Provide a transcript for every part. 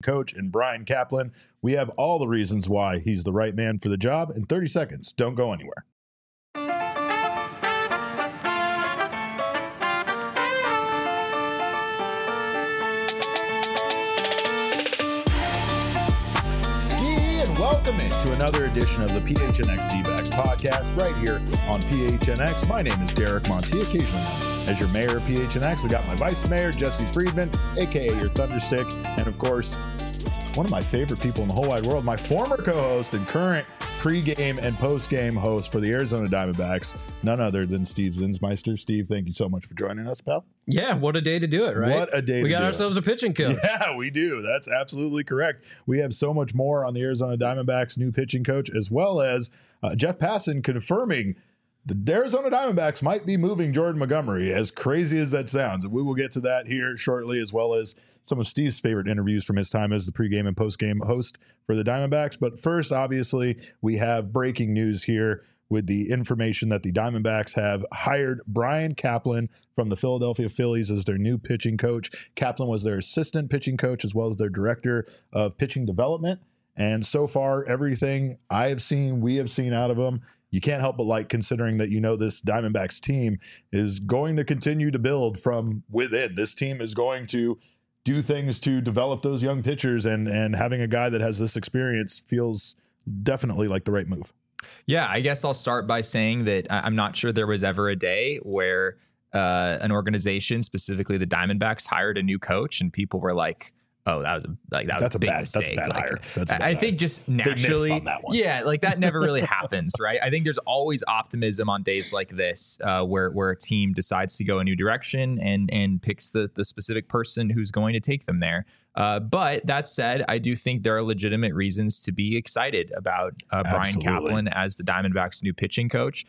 coach in Brian Kaplan. We have all the reasons why he's the right man for the job in 30 seconds. Don't go anywhere. Welcome into another edition of the PHNX D-backs podcast right here on PHNX. My name is Derek Monty, occasionally known as your mayor of PHNX. We got my vice mayor, Jesse Friedman, aka your Thunderstick, and of course, one of my favorite people in the whole wide world, my former co-host and current pre-game and post-game host for the Arizona Diamondbacks, none other than Steve Zinsmeister. Steve, thank you so much for joining us, pal. Yeah, what a day to do it, right? What a day we got ourselves a pitching coach. Yeah, we do. That's absolutely correct. We have so much more on the Arizona Diamondbacks new pitching coach, as well as Jeff Passan confirming the Arizona Diamondbacks might be moving Jordan Montgomery, as crazy as that sounds. And we will get to that here shortly, as well as some of Steve's favorite interviews from his time as the pregame and postgame host for the Diamondbacks. But first, obviously, we have breaking news here with the information that the Diamondbacks have hired Brian Kaplan from the Philadelphia Phillies as their new pitching coach. Kaplan was their assistant pitching coach as well as their director of pitching development. And so far, everything I have seen, we have seen out of him, you can't help but like, considering that, you know, this Diamondbacks team is going to continue to build from within. This team is going to do things to develop those young pitchers, and having a guy that has this experience feels definitely like the right move. Yeah, I guess I'll start by saying that I'm not sure there was ever a day where an organization, specifically the Diamondbacks, hired a new coach and people were like, "Oh, that's a big mistake." That's a bad hire. That's a bad I think just naturally, on that one. Yeah, like that never really happens, right? I think there's always optimism on days like this, where a team decides to go a new direction and picks the specific person who's going to take them there. But that said, I do think there are legitimate reasons to be excited about Brian Kaplan as the Diamondbacks' new pitching coach.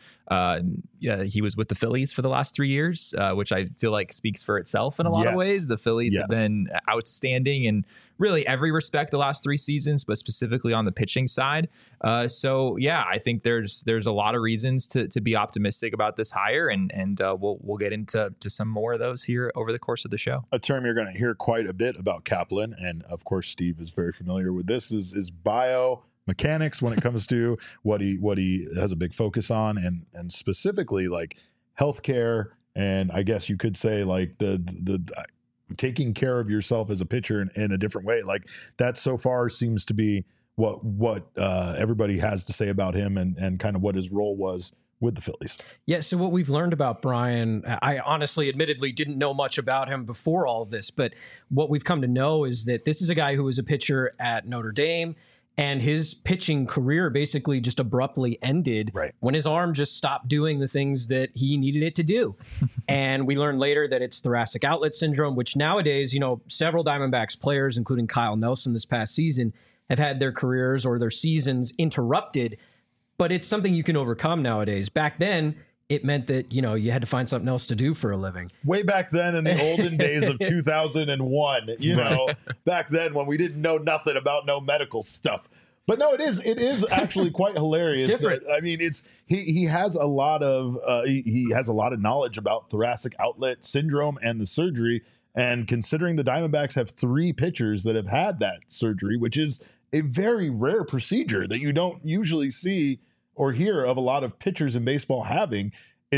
He was with the Phillies for the last 3 years, which I feel like speaks for itself in a lot of ways. The Phillies have been outstanding in really every respect the last 3 seasons, but specifically on the pitching side. So yeah, I think there's a lot of reasons to be optimistic about this hire, and we'll get into some more of those here over the course of the show. A term you're going to hear quite a bit about Kaplan, and of course Steve is very familiar with this, is biomechanics when it comes to what he has a big focus on, and specifically like healthcare, and I guess you could say like the taking care of yourself as a pitcher in a different way. Like that so far seems to be what everybody has to say about him, and kind of what his role was with the Phillies. Yeah, so what we've learned about Brian, I honestly, admittedly, didn't know much about him before all of this, but what we've come to know is that this is a guy who was a pitcher at Notre Dame, and his pitching career basically just abruptly ended when his arm just stopped doing the things that he needed it to do. And we learned later that it's thoracic outlet syndrome, which nowadays, you know, several Diamondbacks players, including Kyle Nelson this past season, have had their careers or their seasons interrupted. But it's something you can overcome nowadays. Back then, it meant that, you know, you had to find something else to do for a living. Way back then in the olden days of 2001, you know, back then when we didn't know nothing about no medical stuff. But no, it is actually quite hilarious. It's different. I mean, he has a lot of he has a lot of knowledge about thoracic outlet syndrome and the surgery. And considering the Diamondbacks have 3 pitchers that have had that surgery, which is a very rare procedure that you don't usually see or hear of a lot of pitchers in baseball having,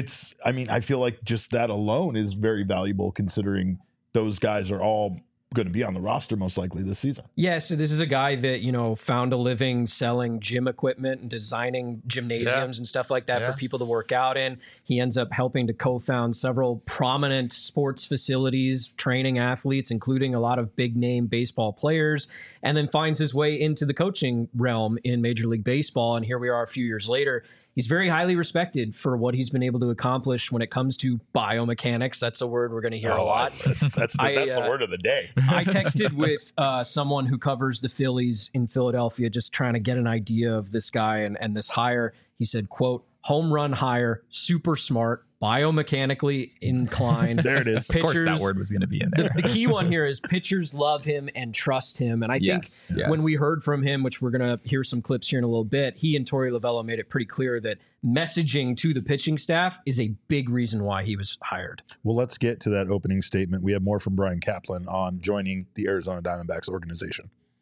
I feel like just that alone is very valuable, considering those guys are all going to be on the roster most likely this season. Yeah, so this is a guy that, you know, found a living selling gym equipment and designing gymnasiums and stuff like that for people to work out in. He ends up helping to co-found several prominent sports facilities, training athletes, including a lot of big name baseball players, and then finds his way into the coaching realm in Major League Baseball. And here we are a few years later. He's very highly respected for what he's been able to accomplish when it comes to biomechanics. That's a word we're going to hear a lot. That's the word of the day. I texted with someone who covers the Phillies in Philadelphia, just trying to get an idea of this guy and this hire. He said, quote, home run hire, super smart, biomechanically inclined. There it is. Pitchers, of course that word was going to be in there. The key one here is pitchers love him and trust him. And I think when we heard from him, which we're going to hear some clips here in a little bit, he and Torey Lovullo made it pretty clear that messaging to the pitching staff is a big reason why he was hired. Well, let's get to that opening statement. We have more from Brian Kaplan on joining the Arizona Diamondbacks organization.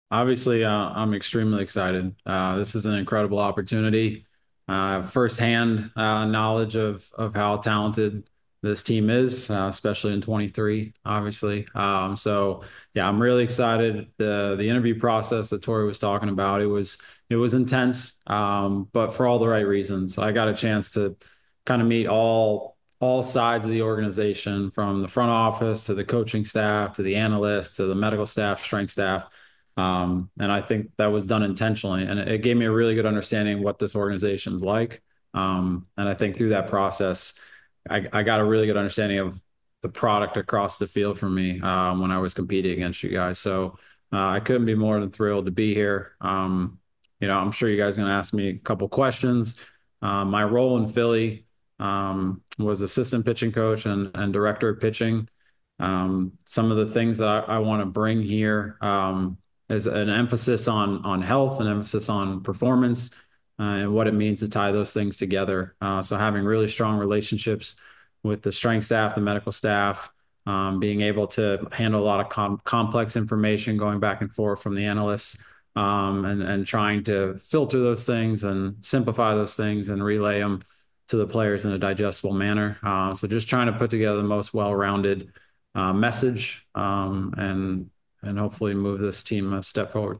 Obviously, I'm extremely excited. This is an incredible opportunity. Firsthand knowledge of how talented this team is, especially in 23, obviously. So yeah, I'm really excited. The interview process that Tori was talking about, it was intense, but for all the right reasons. I got a chance to kind of meet all sides of the organization, from the front office to the coaching staff to the analysts to the medical staff, strength staff. And I think that was done intentionally, and it gave me a really good understanding of what this organization's like. And I think through that process, I got a really good understanding of the product across the field for me when I was competing against you guys. So I couldn't be more than thrilled to be here. I'm sure you guys are going to ask me a couple questions. My role in Philly was assistant pitching coach and director of pitching. Some of the things that I want to bring here is an emphasis on health, an emphasis on performance, and what it means to tie those things together. So having really strong relationships with the strength staff, the medical staff, being able to handle a lot of complex information going back and forth from the analysts, and trying to filter those things and simplify those things and relay them to the players in a digestible manner. So just trying to put together the most well-rounded message, and hopefully move this team a step forward.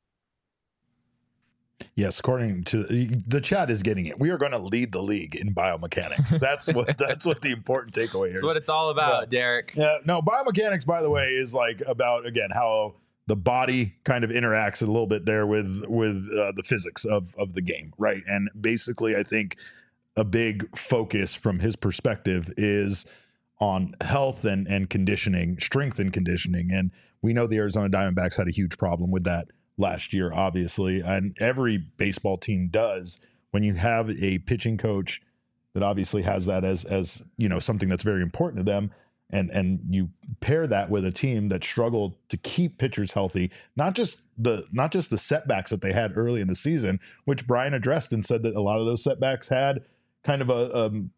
Yes, according to the chat is getting it. We are going to lead the league in biomechanics. That's what the important takeaway here. That's what it's all about, Derek. Yeah, no, biomechanics, by the way, is like about, again, how the body kind of interacts a little bit there with the physics of the game, right? And basically, I think a big focus from his perspective is on health and conditioning, strength and conditioning. And we know the Arizona Diamondbacks had a huge problem with that last year, obviously. And every baseball team does. When you have a pitching coach that obviously has that as something that's very important to them, and you pair that with a team that struggled to keep pitchers healthy, not just the setbacks that they had early in the season, which Brian addressed and said that a lot of those setbacks had kind of an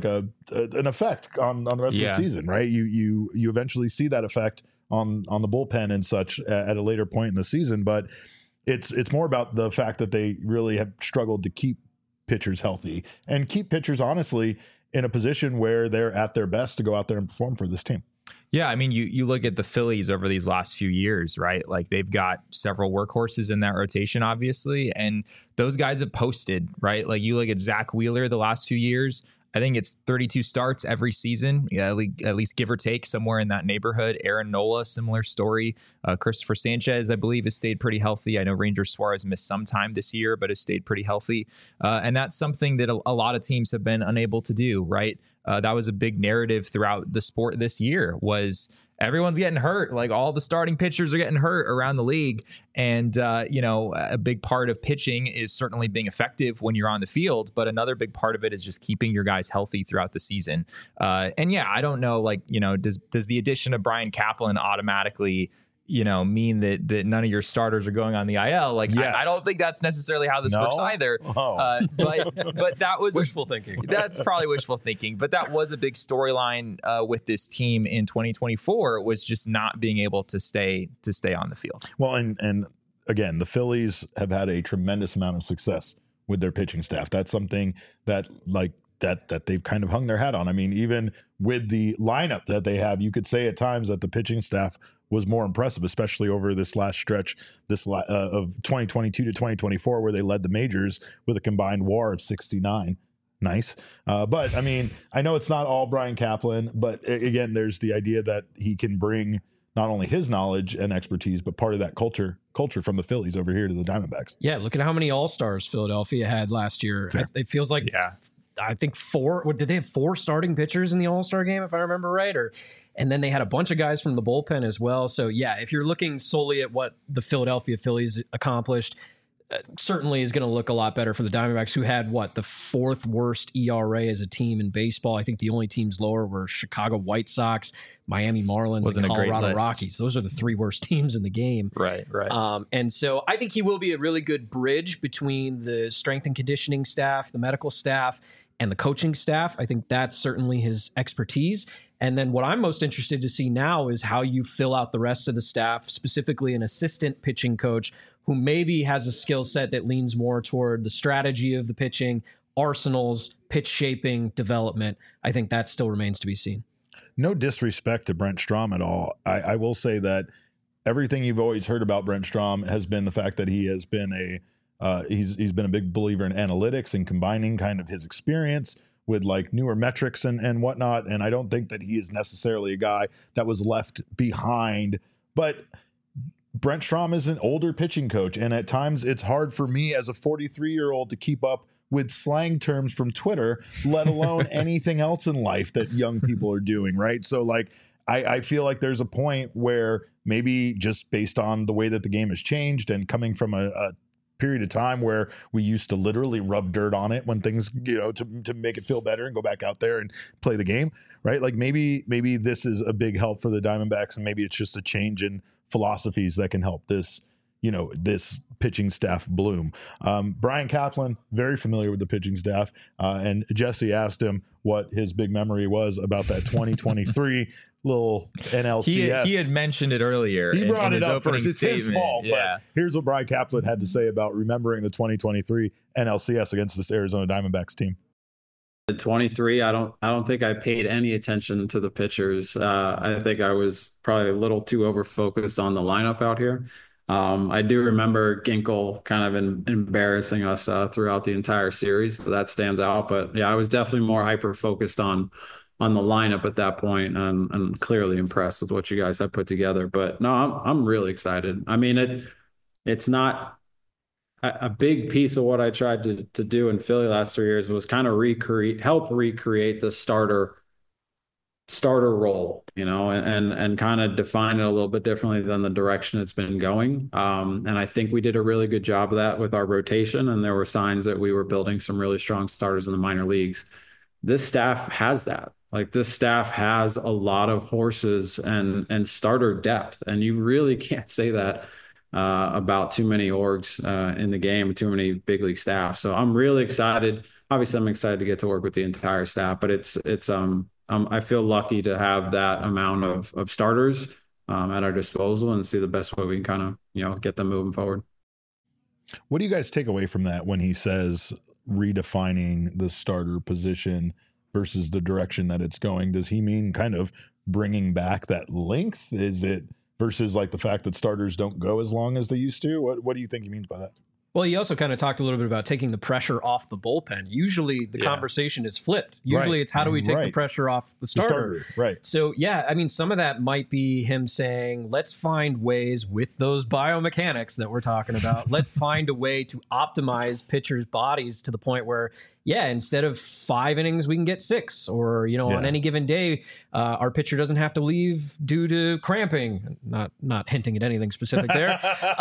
effect on the rest of the season, right? You eventually see that effect on the bullpen and such at a later point in the season, but it's more about the fact that they really have struggled to keep pitchers healthy and keep pitchers honestly in a position where they're at their best to go out there and perform for this team. Yeah, I mean, you look at the Phillies over these last few years, right? Like they've got several workhorses in that rotation, obviously, and those guys have posted, right? Like you look at Zach Wheeler the last few years, I think it's 32 starts every season, at least give or take, somewhere in that neighborhood. Aaron Nola, similar story. Christopher Sanchez, I believe, has stayed pretty healthy. I know Ranger Suarez missed some time this year, but has stayed pretty healthy. And that's something that a lot of teams have been unable to do, right? That was a big narrative throughout the sport this year, was everyone's getting hurt. Like all the starting pitchers are getting hurt around the league. And, a big part of pitching is certainly being effective when you're on the field. But another big part of it is just keeping your guys healthy throughout the season. I don't know, does the addition of Brian Kaplan automatically mean that none of your starters are going on the IL? Yes. I don't think that's necessarily how this works either. Oh. But that was wishful thinking. That's probably wishful thinking. But that was a big storyline with this team in 2024, was just not being able to stay on the field. Well, and again, the Phillies have had a tremendous amount of success with their pitching staff. That's something that that they've kind of hung their hat on. I mean, even with the lineup that they have, you could say at times that the pitching staff was more impressive, especially over this last stretch, of 2022 to 2024, where they led the majors with a combined WAR of 69. Nice. But I mean, I know it's not all Brian Kaplan, but again, there's the idea that he can bring not only his knowledge and expertise, but part of that culture from the Phillies over here to the Diamondbacks. Yeah, look at how many All-Stars Philadelphia had last year. It feels like, I think 4. Did they have 4 starting pitchers in the All-Star game, if I remember right? And then they had a bunch of guys from the bullpen as well. So yeah, if you're looking solely at what the Philadelphia Phillies accomplished, certainly is going to look a lot better for the Diamondbacks, who had the 4th worst ERA as a team in baseball. I think the only teams lower were Chicago White Sox, Miami Marlins, and Colorado Rockies. Those are the 3 worst teams in the game. Right. And so I think he will be a really good bridge between the strength and conditioning staff, the medical staff, and the coaching staff. I think that's certainly his expertise. And then what I'm most interested to see now is how you fill out the rest of the staff, specifically an assistant pitching coach who maybe has a skill set that leans more toward the strategy of the pitching, arsenals, pitch shaping, development. I think that still remains to be seen. No disrespect to Brent Strom at all. I will say that everything you've always heard about Brent Strom has been the fact that he has been he's been a big believer in analytics and combining kind of his experience with like newer metrics and whatnot. And I don't think that he is necessarily a guy that was left behind. But Brent Strom is an older pitching coach, and at times it's hard for me as a 43-year-old to keep up with slang terms from Twitter, let alone anything else in life that young people are doing, right? So like I feel like there's a point where maybe just based on the way that the game has changed and coming from a period of time where we used to literally rub dirt on it when things, to make it feel better and go back out there and play the game, right? Like maybe this is a big help for the Diamondbacks, and maybe it's just a change in philosophies that can help this, this pitching staff bloom. Brian Kaplan, very familiar with the pitching staff, and Jesse asked him what his big memory was about that 2023 little NLCS. He had mentioned it earlier. He brought it up first. It's statement. his fault. Yeah. But here's what Brian Kaplan had to say about remembering the 2023 NLCS against this Arizona Diamondbacks team. At 23, I don't think I paid any attention to the pitchers. I think I was probably a little too over focused on the lineup out here. I do remember Ginkel kind of embarrassing us throughout the entire series, so that stands out. But yeah, I was definitely more hyper focused on the lineup at that point, and clearly impressed with what you guys have put together. But no, I'm really excited. I mean, it's not a big piece of what I tried to do in Philly last 3 years was kind of help recreate the starter role, and kind of define it a little bit differently than the direction it's been going. And I think we did a really good job of that with our rotation, and there were signs that we were building some really strong starters in the minor leagues. This staff has that. Like, this staff has a lot of horses and starter depth, and you really can't say that about too many orgs in the game, too many big league staff. So I'm really excited. Obviously, I'm excited to get to work with the entire staff, but I feel lucky to have that amount of starters at our disposal and see the best way we can kind of, get them moving forward. What do you guys take away from that when he says redefining the starter position versus the direction that it's going? Does he mean kind of bringing back that length? Is it versus like the fact that starters don't go as long as they used to? What do you think he means by that? Well, he also kind of talked a little bit about taking the pressure off the bullpen. Usually the conversation is flipped. Usually it's how do we take the pressure off the starter? Right. So, yeah, I mean, some of that might be him saying, let's find ways with those biomechanics that we're talking about. Let's find a way to optimize pitchers' bodies to the point where, instead of 5 innings, we can get 6. Or, on any given day, our pitcher doesn't have to leave due to cramping. Not hinting at anything specific there.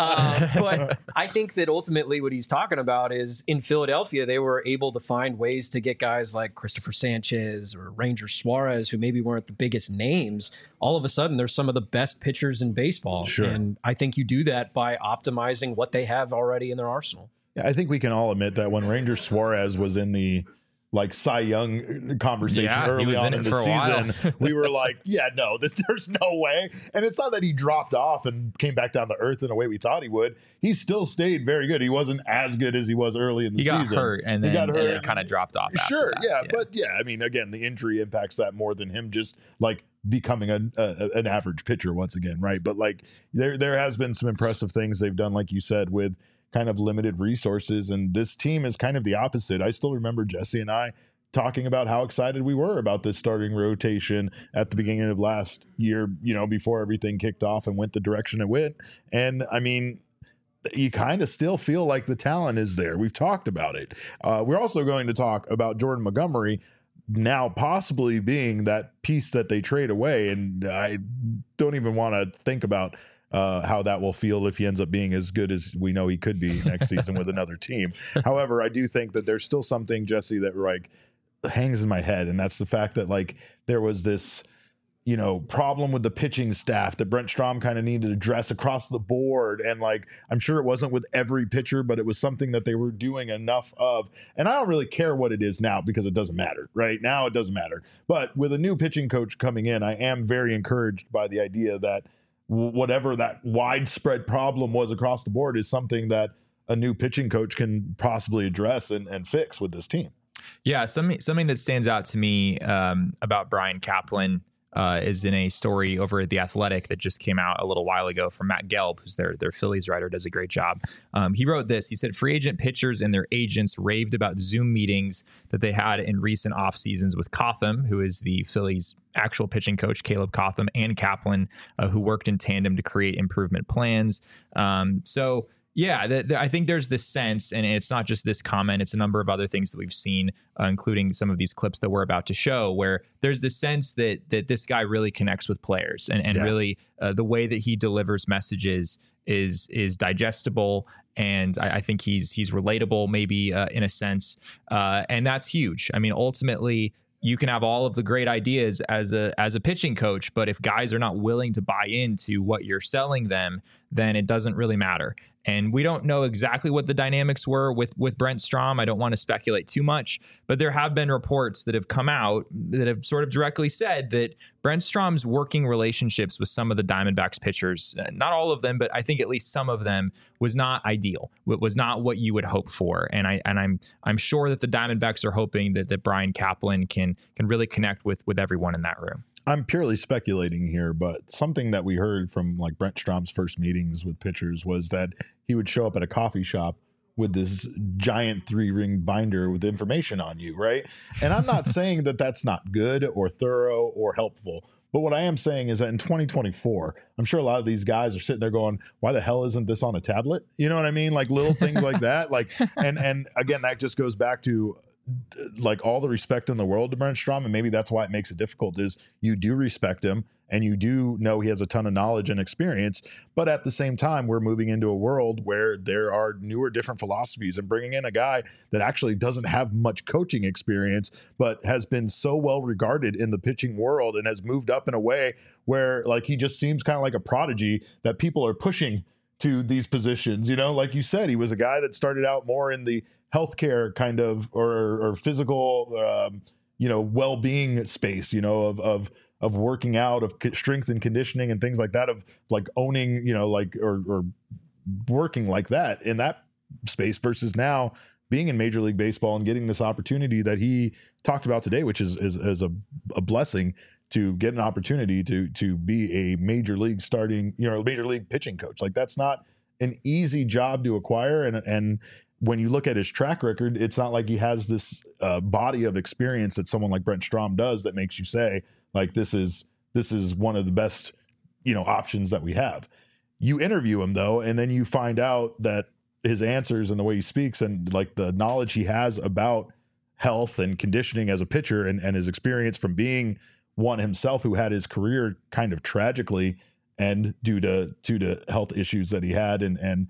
But I think that ultimately what he's talking about is in Philadelphia, they were able to find ways to get guys like Christopher Sanchez or Ranger Suarez, who maybe weren't the biggest names. All of a sudden, they're some of the best pitchers in baseball. Sure. And I think you do that by optimizing what they have already in their arsenal. Yeah, I think we can all admit that when Ranger Suarez was in the Cy Young conversation early on in the season, we were like, there's no way. And it's not that he dropped off and came back down to earth in a way we thought he would. He still stayed very good. He wasn't as good as he was early in the season. He got hurt and then kind of dropped off. Sure, but I mean, again, the injury impacts that more than him just like becoming an average pitcher once again, right? But like there has been some impressive things they've done, like you said, with kind of limited resources, and this team is kind of the opposite. I still remember Jesse and I talking about how excited we were about this starting rotation at the beginning of last year, before everything kicked off and went the direction it went. And I mean, you kind of still feel like the talent is there. We've talked about it. We're also going to talk about Jordan Montgomery now possibly being that piece that they trade away, and I don't even want to think about how that will feel if he ends up being as good as we know he could be next season with another team. However, I do think that there's still something, Jesse, that like hangs in my head, and that's the fact that like there was this problem with the pitching staff that Brent Strom kind of needed to address across the board. And like, I'm sure it wasn't with every pitcher, but it was something that they were doing enough of. And I don't really care what it is now because it doesn't matter. Right now, it doesn't matter. But with a new pitching coach coming in, I am very encouraged by the idea that whatever that widespread problem was across the board is something that a new pitching coach can possibly address and fix with this team. Yeah, something that stands out to me about Brian Kaplan is in a story over at The Athletic that just came out a little while ago from Matt Gelb, who's their Phillies writer, does a great job. He wrote this. He said, free agent pitchers and their agents raved about Zoom meetings that they had in recent off seasons with Cotham, who is the Phillies' actual pitching coach, Caleb Cotham, and Kaplan, who worked in tandem to create improvement plans. Yeah, I think there's this sense, and it's not just this comment, it's a number of other things that we've seen, including some of these clips that we're about to show, where there's this sense that this guy really connects with players and really the way that he delivers messages is digestible. And I think he's relatable, maybe in a sense. And that's huge. I mean, ultimately, you can have all of the great ideas as a pitching coach, but if guys are not willing to buy into what you're selling them, then it doesn't really matter. And we don't know exactly what the dynamics were with Brent Strom. I don't want to speculate too much, but there have been reports that have come out that have sort of directly said that Brent Strom's working relationships with some of the Diamondbacks pitchers, not all of them, but I think at least some of them, was not ideal. It was not what you would hope for. And I'm sure that the Diamondbacks are hoping that Brian Kaplan can really connect with everyone in that room. I'm purely speculating here, but something that we heard from like Brent Strom's first meetings with pitchers was that he would show up at a coffee shop with this giant 3-ring binder with information on you, right? And I'm not saying that that's not good or thorough or helpful, but what I am saying is that in 2024, I'm sure a lot of these guys are sitting there going, why the hell isn't this on a tablet? You know what I mean? Like little things like that. Like, and again, that just goes back to like all the respect in the world to Brent Strom, and maybe that's why it makes it difficult, is you do respect him and you do know he has a ton of knowledge and experience, but at the same time, we're moving into a world where there are newer, different philosophies, and bringing in a guy that actually doesn't have much coaching experience, but has been so well regarded in the pitching world and has moved up in a way where like he just seems kind of like a prodigy that people are pushing to these positions. You know, like you said, he was a guy that started out more in the healthcare kind of or physical, well-being space, of working out, of strength and conditioning and things like that, of like owning, or working like that in that space versus now being in Major League Baseball and getting this opportunity that he talked about today, which is a blessing to get an opportunity to be a major league major league pitching coach. Like that's not an easy job to acquire. And when you look at his track record, it's not like he has this body of experience that someone like Brent Strom does that makes you say like, this is one of the best, options that we have. You interview him though, and then you find out that his answers and the way he speaks and like the knowledge he has about health and conditioning as a pitcher and his experience from being one himself who had his career kind of tragically end due to health issues that he had and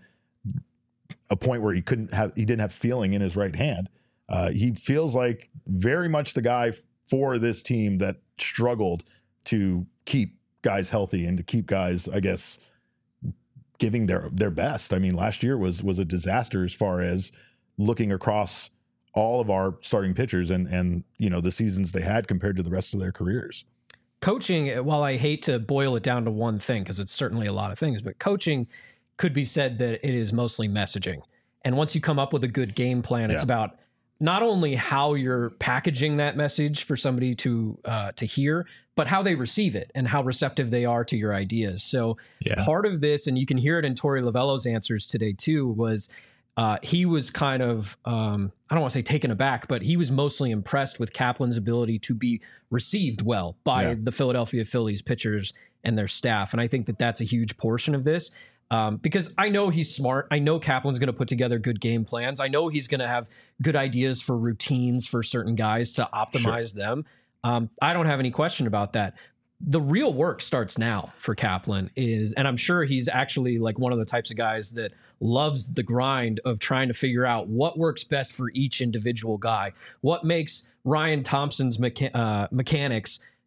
a point where he didn't have feeling in his right hand. He feels like very much the guy for this team that struggled to keep guys healthy and to keep guys, I guess, giving their best. I mean, last year was a disaster as far as looking across all of our starting pitchers and the seasons they had compared to the rest of their careers. Coaching, while I hate to boil it down to one thing, because it's certainly a lot of things, but coaching could be said that it is mostly messaging. And once you come up with a good game plan, it's about not only how you're packaging that message for somebody to hear, but how they receive it and how receptive they are to your ideas. So part of this, and you can hear it in Torey Lovullo's answers today too, was he was kind of, I don't want to say taken aback, but he was mostly impressed with Kaplan's ability to be received well by the Philadelphia Phillies pitchers and their staff. And I think that that's a huge portion of this. Because I know he's smart. I know Kaplan's going to put together good game plans. I know he's going to have good ideas for routines for certain guys to optimize them. I don't have any question about that. The real work starts now for Kaplan and I'm sure he's actually like one of the types of guys that loves the grind of trying to figure out what works best for each individual guy. What makes Ryan Thompson's mechanics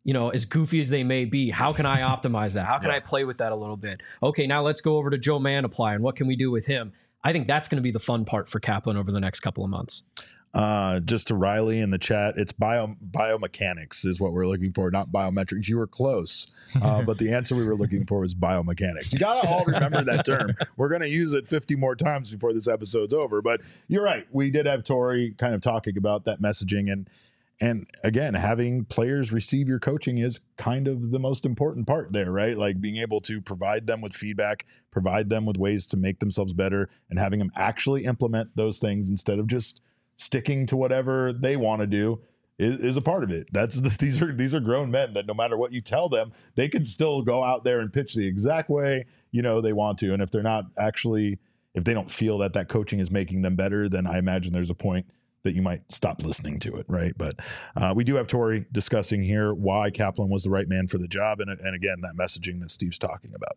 as goofy as they may be, how can I optimize that? How can I play with that a little bit? Okay, now let's go over to Joe Mantiply and what can we do with him? I think that's going to be the fun part for Kaplan over the next couple of months. Just to Riley in the chat, it's biomechanics is what we're looking for, not biometrics. You were close, but the answer we were looking for was biomechanics. You got to all remember that term. We're going to use it 50 more times before this episode's over. But you're right. We did have Tori kind of talking about that messaging. And again, having players receive your coaching is kind of the most important part there, right? Like being able to provide them with feedback, provide them with ways to make themselves better, and having them actually implement those things instead of just sticking to whatever they want to do is a part of it. These are grown men that no matter what you tell them, they can still go out there and pitch the exact way they want to. And if they don't feel that coaching is making them better, then I imagine there's a point that you might stop listening to it, right? But we do have Tori discussing here why Kaplan was the right man for the job, and again, that messaging that Steve's talking about.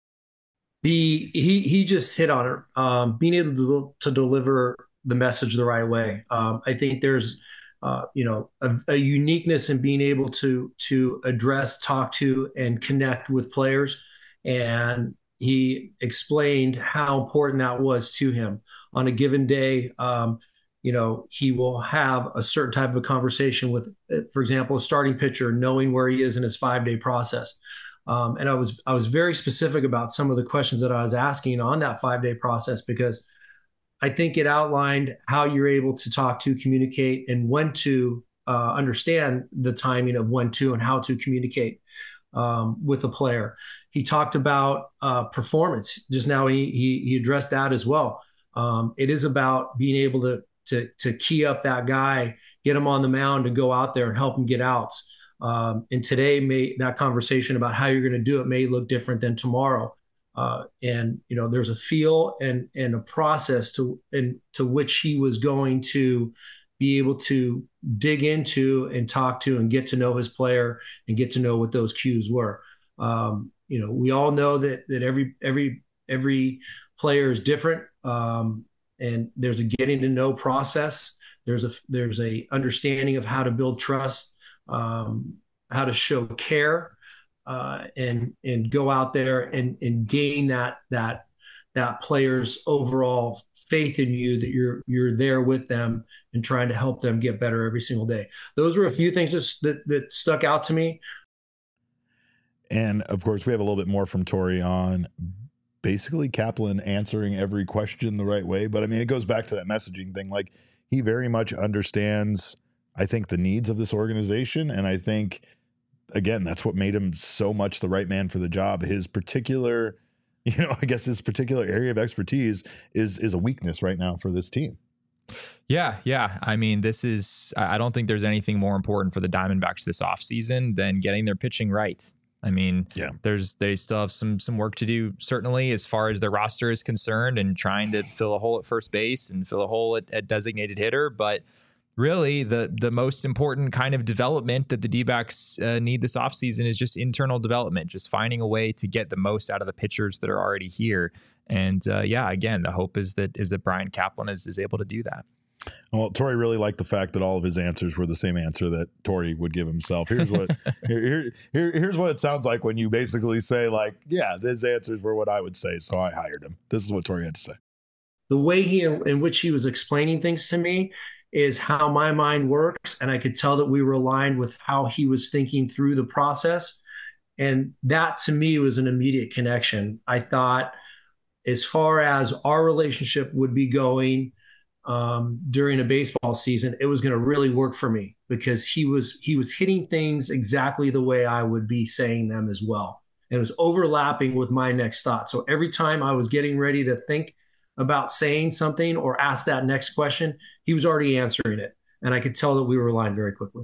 He just hit on it, being able to deliver the message the right way. I think there's a uniqueness in being able to address, talk to, and connect with players, and he explained how important that was to him on a given day. He will have a certain type of a conversation with, for example, a starting pitcher, knowing where he is in his 5-day process. And I was very specific about some of the questions that I was asking on that 5-day process, because I think it outlined how you're able to talk to, communicate, and when to understand the timing of when to and how to communicate with a player. He talked about performance. Just now he addressed that as well. It is about being able to key up that guy, get him on the mound, and go out there and help him get outs. And today, that conversation about how you're going to do it may look different than tomorrow. There's a feel and a process to which he was going to be able to dig into and talk to and get to know his player and get to know what those cues were. We all know that every player is different. And there's a getting to know process. There's a understanding of how to build trust, how to show care, and go out there and gain that player's overall faith in you, that you're there with them and trying to help them get better every single day. Those were a few things that stuck out to me. And of course, we have a little bit more from Tori on basically Kaplan answering every question the right way. But I mean, it goes back to that messaging thing. Like, he very much understands, I think, the needs of this organization. And I think, again, that's what made him so much the right man for the job. His particular, his particular area of expertise is a weakness right now for this team. Yeah. I mean, I don't think there's anything more important for the Diamondbacks this offseason than getting their pitching right. I mean, they still have some work to do, certainly, as far as their roster is concerned, and trying to fill a hole at first base and fill a hole at designated hitter. But really, the most important kind of development that the D-backs need this offseason is just internal development, just finding a way to get the most out of the pitchers that are already here. And again, the hope is that Brian Kaplan is able to do that. Well, Tori really liked the fact that all of his answers were the same answer that Tori would give himself. Here's what here's what it sounds like when you basically say, like, yeah, his answers were what I would say, so I hired him. This is what Tori had to say. The way in which he was explaining things to me is how my mind works, and I could tell that we were aligned with how he was thinking through the process. And that, to me, was an immediate connection. I thought, as far as our relationship would be going during a baseball season, it was going to really work for me, because he was hitting things exactly the way I would be saying them as well. And it was overlapping with my next thought. So every time I was getting ready to think about saying something or ask that next question, he was already answering it. And I could tell that we were aligned very quickly.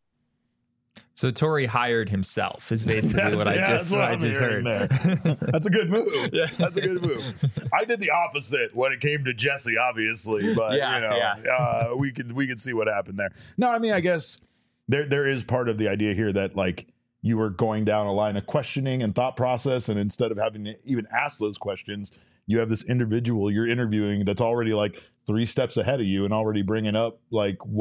So Tori hired himself is basically what I just heard. That's a good move. Yeah. That's a good move. I did the opposite when it came to Jesse, obviously, but we could see what happened there. No, I mean, I guess there is part of the idea here that, like, you were going down a line of questioning and thought process, and instead of having to even ask those questions, you have this individual you're interviewing that's already like 3 steps ahead of you and already bringing up like what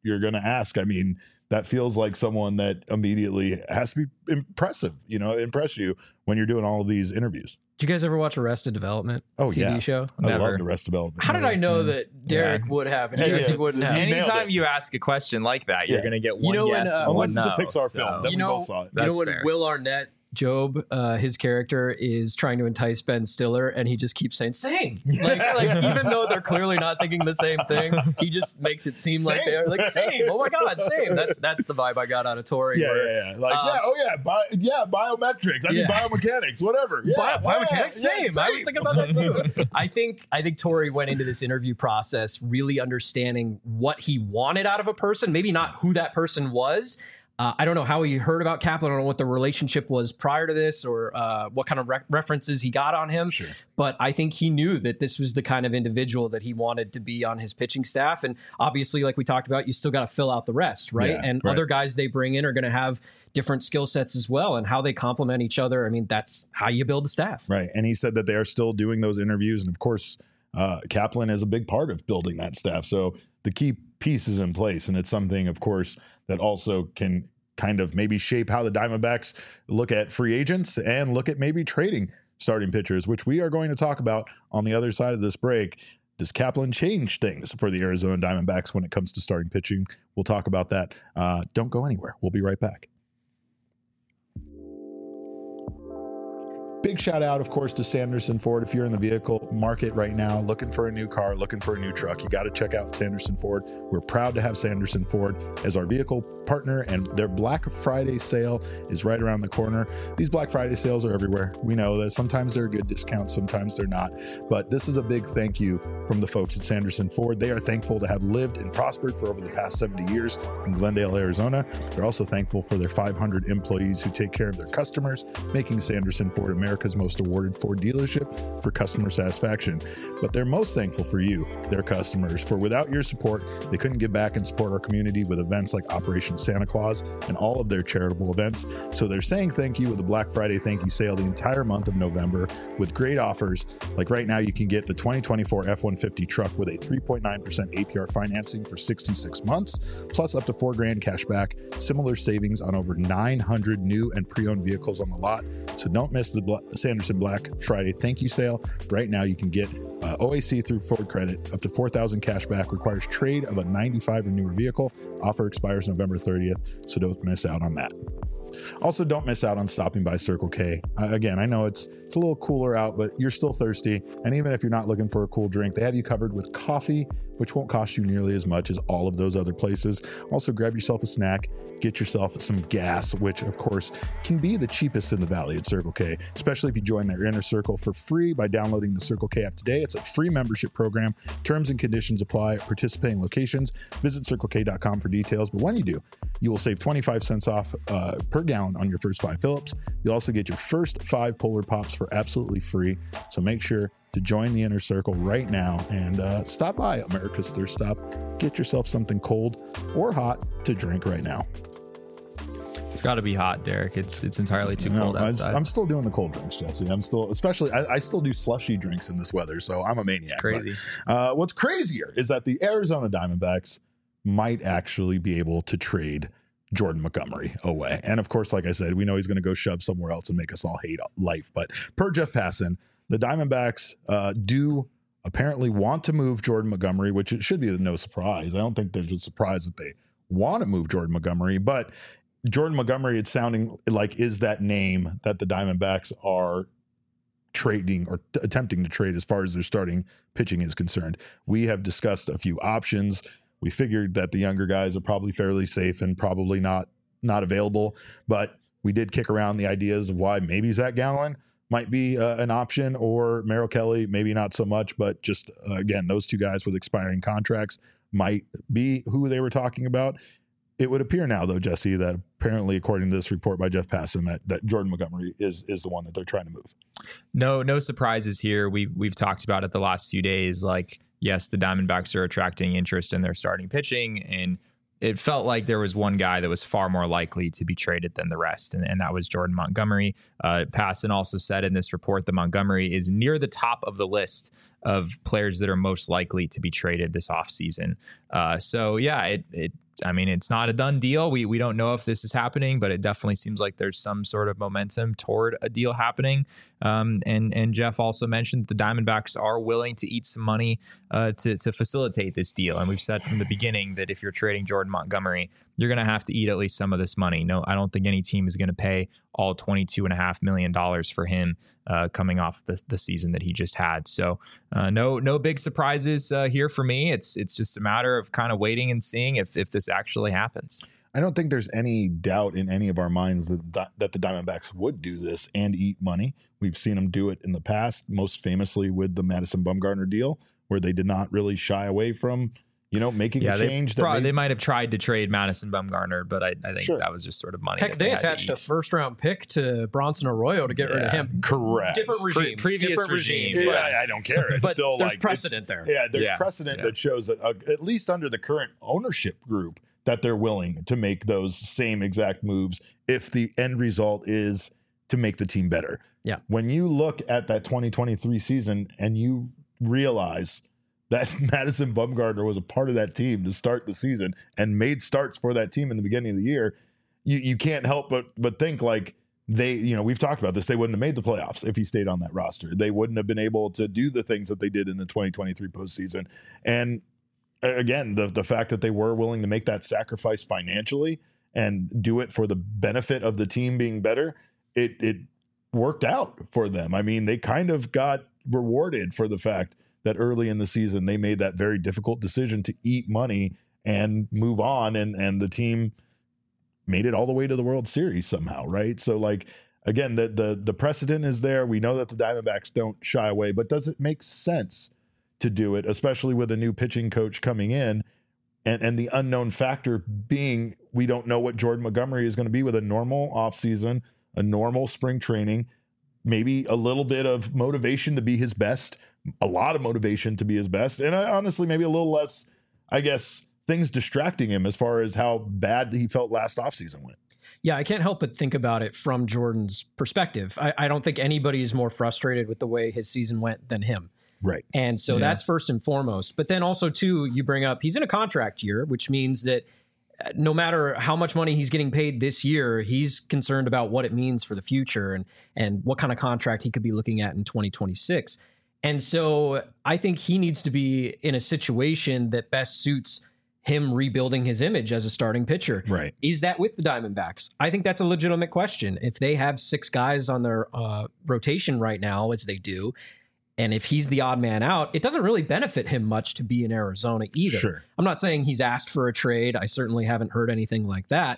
you're going to ask. I mean, that feels like someone that immediately has to be impressive, impress you when you're doing all of these interviews. Did you guys ever watch Arrested Development? Oh, TV show? I love Arrested Development. How did I know that Derek would have and Jesse wouldn't have? Anytime you ask a question like that, you're going to get one yes and unless one it's a Pixar film. Then we both saw it. You know when Will Arnett, Job, his character is trying to entice Ben Stiller, and he just keeps saying "same," like even though they're clearly not thinking the same thing, he just makes it seem like they're like "same." Oh my God, same. That's the vibe I got out of Tori. Biometrics. I mean, biomechanics, whatever. Biomechanics, same. I was thinking about that too. I think Tori went into this interview process really understanding what he wanted out of a person, maybe not who that person was. I don't know how he heard about Kaplan. I don't know what the relationship was prior to this or what kind of references he got on him. Sure. But I think he knew that this was the kind of individual that he wanted to be on his pitching staff. And obviously, like we talked about, you still got to fill out the rest, right? Other guys they bring in are going to have different skill sets as well, and how they complement each other. I mean, that's how you build a staff. Right. And he said that they are still doing those interviews. And of course, Kaplan is a big part of building that staff. So the key piece is in place. And it's something, of course, that also can kind of maybe shape how the Diamondbacks look at free agents and look at maybe trading starting pitchers, which we are going to talk about on the other side of this break. Does Kaplan change things for the Arizona Diamondbacks when it comes to starting pitching? We'll talk about that. Don't go anywhere. We'll be right back. Big shout out, of course, to Sanderson Ford. If you're in the vehicle market right now, looking for a new car, looking for a new truck, you got to check out Sanderson Ford. We're proud to have Sanderson Ford as our vehicle partner, and their Black Friday sale is right around the corner. These Black Friday sales are everywhere. We know that sometimes they're good discounts, sometimes they're not. But this is a big thank you from the folks at Sanderson Ford. They are thankful to have lived and prospered for over the past 70 years in Glendale, Arizona. They're also thankful for their 500 employees who take care of their customers, making Sanderson Ford America's most awarded Ford dealership for customer satisfaction. But they're most thankful for you, their customers, for without your support, they couldn't give back and support our community with events like Operation Santa Claus and all of their charitable events. So they're saying thank you with a Black Friday thank you sale the entire month of November with great offers. Like right now, you can get the 2024 F-150 truck with a 3.9% APR financing for 66 months, plus up to $4,000 cash back. Similar savings on over 900 new and pre-owned vehicles on the lot. So don't miss the Sanderson Black Friday thank you sale. Right now, you can get OAC through Ford Credit. Up to $4,000 cash back. Requires trade of a 95 or newer vehicle. Offer expires November 30th, so don't miss out on that. Also, don't miss out on stopping by Circle K. Again, I know it's a little cooler out, but you're still thirsty. And even if you're not looking for a cool drink, they have you covered with coffee, which won't cost you nearly as much as all of those other places. Also, grab yourself a snack, get yourself some gas, which of course can be the cheapest in the valley at Circle K, especially if you join their inner circle for free by downloading the Circle K app today. It's a free membership program. Terms and conditions apply at participating locations. Visit CircleK.com for details. But when you do, you will save 25 cents off per gallon on your first 5 fill-ups. You'll also get your first 5 Polar Pops for absolutely free. So make sure to join the inner circle right now and stop by America's Thirst Stop. Get yourself something cold or hot to drink right now. It's got to be hot, Derek. It's entirely too cold outside. I'm still doing the cold drinks, Jesse. I'm still, especially, I still do slushy drinks in this weather, so I'm a maniac. It's crazy. But, what's crazier is that the Arizona Diamondbacks might actually be able to trade Jordan Montgomery away. And of course, like I said, we know he's going to go shove somewhere else and make us all hate life. But per Jeff Passan, the Diamondbacks do apparently want to move Jordan Montgomery, which it should be no surprise. I don't think there's a surprise that they want to move Jordan Montgomery, but Jordan Montgomery, it's sounding like, is that name that the Diamondbacks are trading or attempting to trade as far as their starting pitching is concerned. We have discussed a few options. We figured that the younger guys are probably fairly safe and probably not available, but we did kick around the ideas of why maybe Zach Gallen might be an option, or Merrill Kelly, maybe not so much, but just again, those two guys with expiring contracts might be who they were talking about. It would appear now, though, Jesse, that apparently, according to this report by Jeff Passan, that Jordan Montgomery is the one that they're trying to move. No surprises here. We've talked about it the last few days. Like, yes, the Diamondbacks are attracting interest in their starting pitching, and it felt like there was one guy that was far more likely to be traded than the rest, and that was Jordan Montgomery. Passan also said in this report that Montgomery is near the top of the list of players that are most likely to be traded this offseason. So yeah, I mean, it's not a done deal. We don't know if this is happening, but it definitely seems like there's some sort of momentum toward a deal happening. And Jeff also mentioned the Diamondbacks are willing to eat some money to facilitate this deal. And we've said from the beginning that if you're trading Jordan Montgomery, you're going to have to eat at least some of this money. No, I don't think any team is going to pay all $22.5 million for him coming off the season that he just had. So no big surprises here for me. It's just a matter of kind of waiting and seeing if this actually happens. I don't think there's any doubt in any of our minds that the Diamondbacks would do this and eat money. We've seen them do it in the past, most famously with the Madison Bumgarner deal, where they did not really shy away from making a change. They might have tried to trade Madison Bumgarner, but I think that was just sort of money. Heck, they attached a first-round pick to Bronson Arroyo to get rid of him. Correct. Different regime. Previous regime. Yeah, I don't care. It's but still there's precedent there. Yeah, there's precedent that shows that at least under the current ownership group that they're willing to make those same exact moves if the end result is to make the team better. Yeah. When you look at that 2023 season and you realize that Madison Bumgarner was a part of that team to start the season and made starts for that team in the beginning of the year, you can't help but think like we've talked about this, they wouldn't have made the playoffs if he stayed on that roster. They wouldn't have been able to do the things that they did in the 2023 postseason. And again, the fact that they were willing to make that sacrifice financially and do it for the benefit of the team being better, it worked out for them. I mean, they kind of got rewarded for the fact that early in the season they made that very difficult decision to eat money and move on, and the team made it all the way to the World Series somehow, right? So like, again, the precedent is there. We know that the Diamondbacks don't shy away, but does it make sense to do it, especially with a new pitching coach coming in and the unknown factor being we don't know what Jordan Montgomery is going to be with a normal offseason, a normal spring training, maybe a little bit of motivation to be his best, a lot of motivation to be his best, and honestly maybe a little less, I guess, things distracting him as far as how bad he felt last offseason went. Yeah, I can't help but think about it from Jordan's perspective. I don't think anybody is more frustrated with the way his season went than him. Right. And so that's first and foremost. But then also, too, you bring up he's in a contract year, which means that no matter how much money he's getting paid this year, he's concerned about what it means for the future and what kind of contract he could be looking at in 2026. And so I think he needs to be in a situation that best suits him rebuilding his image as a starting pitcher. Right. Is that with the Diamondbacks? I think that's a legitimate question. If they have 6 guys on their rotation right now, as they do, and if he's the odd man out, it doesn't really benefit him much to be in Arizona either. Sure. I'm not saying he's asked for a trade. I certainly haven't heard anything like that.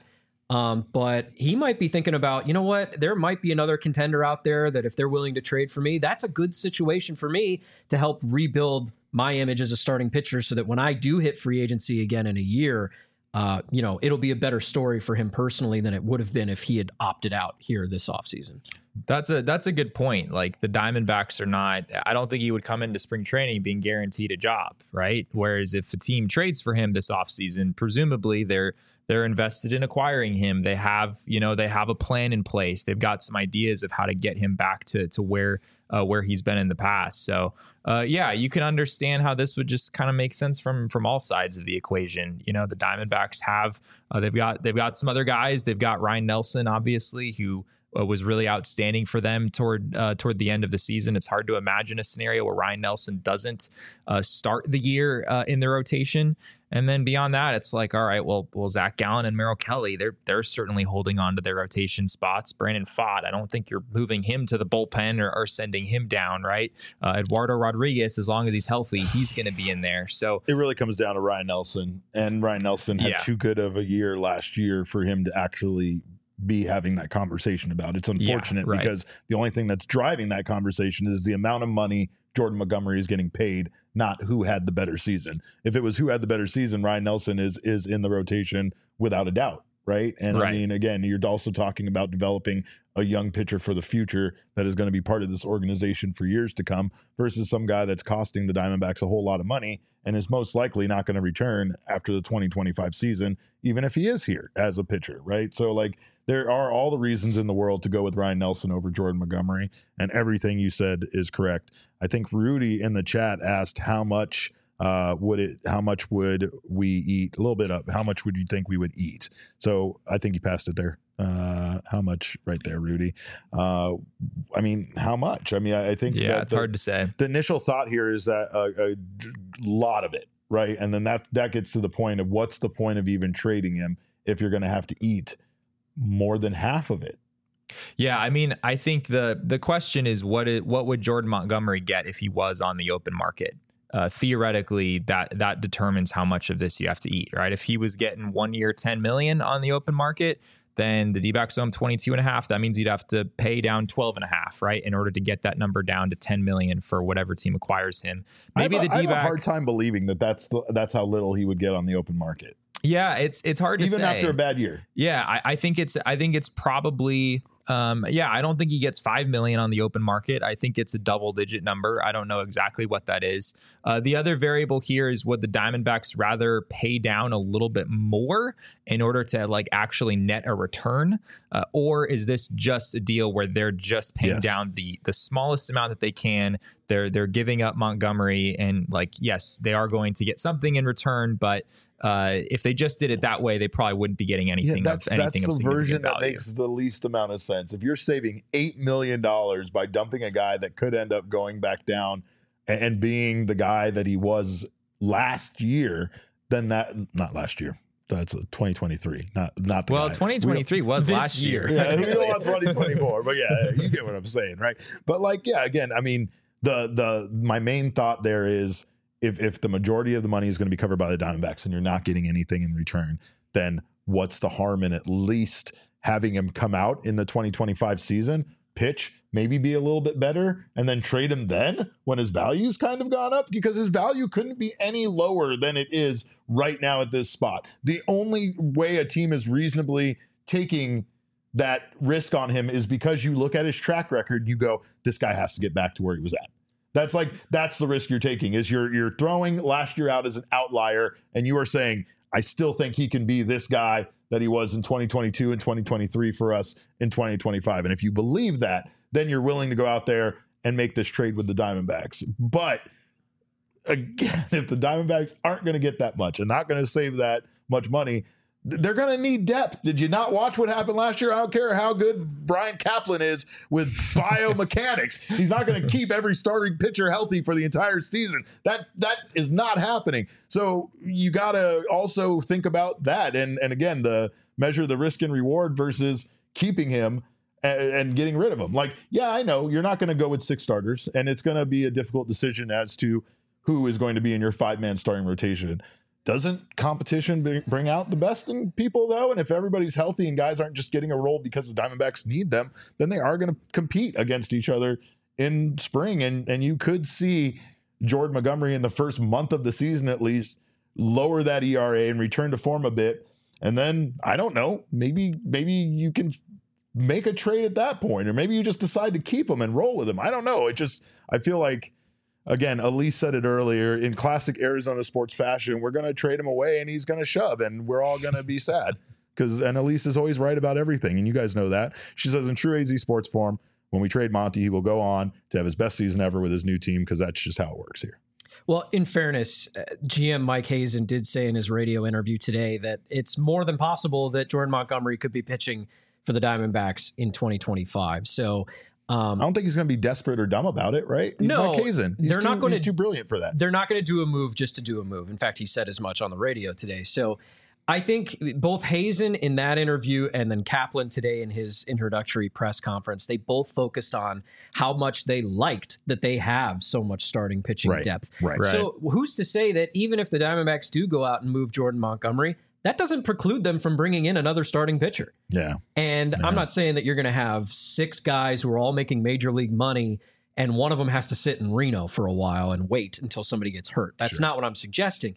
But he might be thinking about, you know what, there might be another contender out there that if they're willing to trade for me, that's a good situation for me to help rebuild my image as a starting pitcher so that when I do hit free agency again in a year, it'll be a better story for him personally than it would have been if he had opted out here this offseason. That's a good point. Like the Diamondbacks are not, I don't think he would come into spring training being guaranteed a job, right? Whereas if a team trades for him this offseason, presumably they're invested in acquiring him. They have a plan in place. They've got some ideas of how to get him back to where he's been in the past. So you can understand how this would just kind of make sense from all sides of the equation. You know, the Diamondbacks have they've got some other guys. They've got Ryan Nelson, obviously, who was really outstanding for them toward the end of the season. It's hard to imagine a scenario where Ryan Nelson doesn't start the year in the rotation. And then beyond that, it's like, all right, well, Zach Gallen and Merrill Kelly, they're certainly holding on to their rotation spots. Brandon Pfaadt, I don't think you're moving him to the bullpen or sending him down, right? Eduardo Rodriguez, as long as he's healthy, he's going to be in there. So it really comes down to Ryan Nelson, and Ryan Nelson had too good of a year last year for him to actually be having that conversation about. It's unfortunate because the only thing that's driving that conversation is the amount of money Jordan Montgomery is getting paid, not who had the better season. If it was who had the better season, Ryan Nelson is in the rotation without a doubt. right? And Right. I mean, again, you're also talking about developing a young pitcher for the future that is going to be part of this organization for years to come versus some guy that's costing the Diamondbacks a whole lot of money and is most likely not going to return after the 2025 season, even if he is here as a pitcher, right? So, like, there are all the reasons in the world to go with Ryan Nelson over Jordan Montgomery, and everything you said is correct. I think Rudy in the chat asked how much would we eat? A little bit up. How much would you think we would eat? So I think you passed it there. How much right there, Rudy? I mean, how much? I mean, I think it's hard to say. The initial thought here is that a lot of it, right? And then that gets to the point of what's the point of even trading him if you're going to have to eat more than half of it. Yeah, I mean, I think the question is what would Jordan Montgomery get if he was on the open market? Theoretically, that determines how much of this you have to eat, right? If he was getting 1 year, $10 million on the open market, then the D-backs owe him 22.5. That means you'd have to pay down 12.5, right, in order to get that number down to 10 million for whatever team acquires him. Maybe the D-backs. I have a hard time believing that's how little he would get on the open market. Yeah, it's hard to say. Even after a bad year. Yeah, I think it's probably. I don't think he gets 5 million on the open market. I think it's a double-digit number. I don't know exactly what that is. The other variable here is would the Diamondbacks rather pay down a little bit more in order to like actually net a return, or is this just a deal where they're just paying down the smallest amount that they can? They're giving up Montgomery, and like yes, they are going to get something in return, but if they just did it that way, they probably wouldn't be getting anything. That's the version that makes the least amount of sense. If you're saving $8 million by dumping a guy that could end up going back down and being the guy that he was last year, then not last year. That's 2023, not the guy. 2023 was last year. Yeah, we don't want 2024, but yeah, you get what I'm saying, right? But like, yeah, again, I mean, my main thought there is, if the majority of the money is going to be covered by the Diamondbacks and you're not getting anything in return, then what's the harm in at least having him come out in the 2025 season, pitch, maybe be a little bit better, and then trade him then when his value's kind of gone up? Because his value couldn't be any lower than it is right now at this spot. The only way a team is reasonably taking that risk on him is because you look at his track record, you go, this guy has to get back to where he was at. That's the risk you're taking, is you're throwing last year out as an outlier, and you are saying, I still think he can be this guy that he was in 2022 and 2023 for us in 2025. And if you believe that, then you're willing to go out there and make this trade with the Diamondbacks. But again, if the Diamondbacks aren't going to get that much and not going to save that much money, they're going to need depth. Did you not watch what happened last year? I don't care how good Brian Kaplan is with biomechanics. He's not going to keep every starting pitcher healthy for the entire season. That is not happening. So you got to also think about that. And again, measure the risk and reward versus keeping him and getting rid of him. Like, yeah, I know you're not going to go with 6 starters, and it's going to be a difficult decision as to who is going to be in your 5-man starting rotation. Doesn't competition bring out the best in people, though? And if everybody's healthy and guys aren't just getting a role because the Diamondbacks need them, then they are going to compete against each other in spring. And you could see Jordan Montgomery in the first month of the season at least lower that ERA and return to form a bit. And then, I don't know, maybe you can make a trade at that point, or maybe you just decide to keep him and roll with him. I don't know. I feel like, again, Elise said it earlier, in classic Arizona sports fashion, we're going to trade him away and he's going to shove and we're all going to be sad. And Elise is always right about everything, and you guys know that. She says, in true AZ sports form, when we trade Monty, he will go on to have his best season ever with his new team, because that's just how it works here. Well, in fairness, GM Mike Hazen did say in his radio interview today that it's more than possible that Jordan Montgomery could be pitching for the Diamondbacks in 2025. So I don't think he's going to be desperate or dumb about it, right? He's no, Mike Hazen. He's too brilliant for that. They're not going to do a move just to do a move. In fact, he said as much on the radio today. So I think both Hazen in that interview and then Kaplan today in his introductory press conference, they both focused on how much they liked that they have so much starting pitching depth. Right. So who's to say that even if the Diamondbacks do go out and move Jordan Montgomery, that doesn't preclude them from bringing in another starting pitcher. Yeah. And I'm not saying that you're going to have 6 guys who are all making major league money and one of them has to sit in Reno for a while and wait until somebody gets hurt. That's not what I'm suggesting.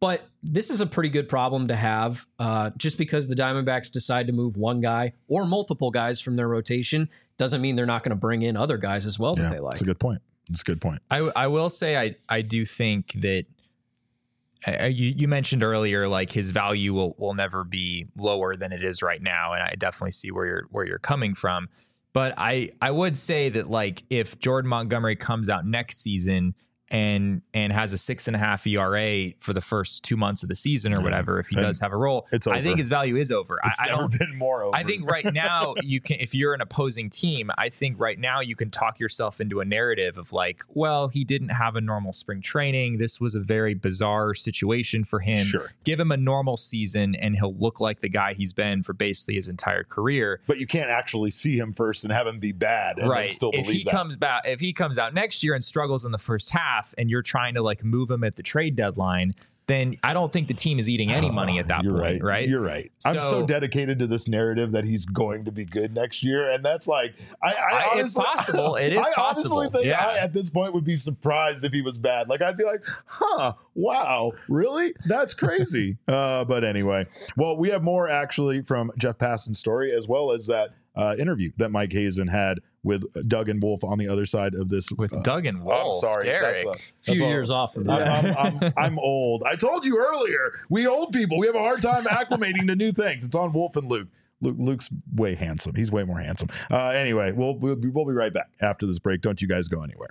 But this is a pretty good problem to have. Just because the Diamondbacks decide to move one guy or multiple guys from their rotation doesn't mean they're not going to bring in other guys as well that they like. That's a good point. That's a good point. I will say I do think that you mentioned earlier, like his value will never be lower than it is right now, and I definitely see where you're coming from. But I would say that, like, if Jordan Montgomery comes out next season and has a 6.5 ERA for the first 2 months of the season or whatever, if he does have a role, I think his value is over. It's never been more over. I think right now you can, if you're an opposing team, I think right now you can talk yourself into a narrative of like, well, he didn't have a normal spring training. This was a very bizarre situation for him. Sure. Give him a normal season and he'll look like the guy he's been for basically his entire career. But you can't actually see him first and have him be bad and then still believe that. If he comes out next year and struggles in the first half and you're trying to like move him at the trade deadline, then I don't think the team is eating any money at that point, right? You're right. I'm so dedicated to this narrative that he's going to be good next year, and that's like, I honestly, it's possible. It is possible. I honestly think I, at this point, would be surprised if he was bad. Like, I'd be like, wow, really? That's crazy. But anyway, well, we have more actually from Jeff Passan's story, as well as that interview that Mike Hazen had with Doug and Wolf on the other side of this. With Doug and Wolf. I'm sorry. Derek. That's few years off of that. I'm old. I told you earlier, we old people, we have a hard time acclimating to new things. It's on Wolf and Luke. Luke's way handsome. He's way more handsome. Anyway, we'll be right back after this break. Don't you guys go anywhere.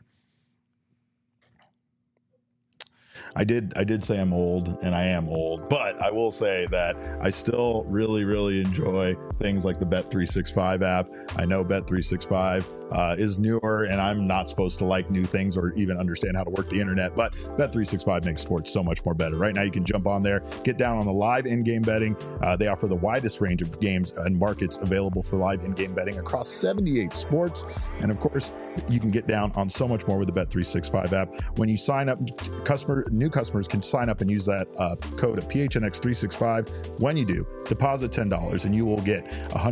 I did say I'm old, and I am old, but I will say that I still really, really enjoy things like the Bet365 app. I know Bet365 is newer, and I'm not supposed to like new things or even understand how to work the internet, but Bet365 makes sports so much more better. Right now, you can jump on there, get down on the live in-game betting. They offer the widest range of games and markets available for live in-game betting across 78 sports. And of course, you can get down on so much more with the Bet365 app. When you sign up, new customers can sign up and use that code of PHNX365. When you do, deposit $10 and you will get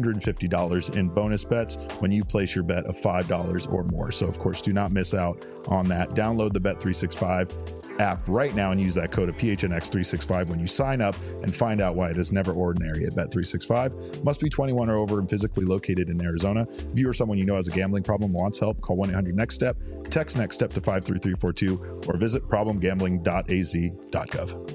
$150 in bonus bets when you place your bet of $5 or more. So of course, do not miss out on that. Download the Bet365 app right now and use that code of PHNX365 when you sign up, and find out why it is never ordinary at Bet365. Must be 21 or over and physically located in Arizona. If you or someone you know has a gambling problem, wants help, call 1-800-NEXT-STEP, text NEXT STEP to 53342, or visit problemgambling.az.gov.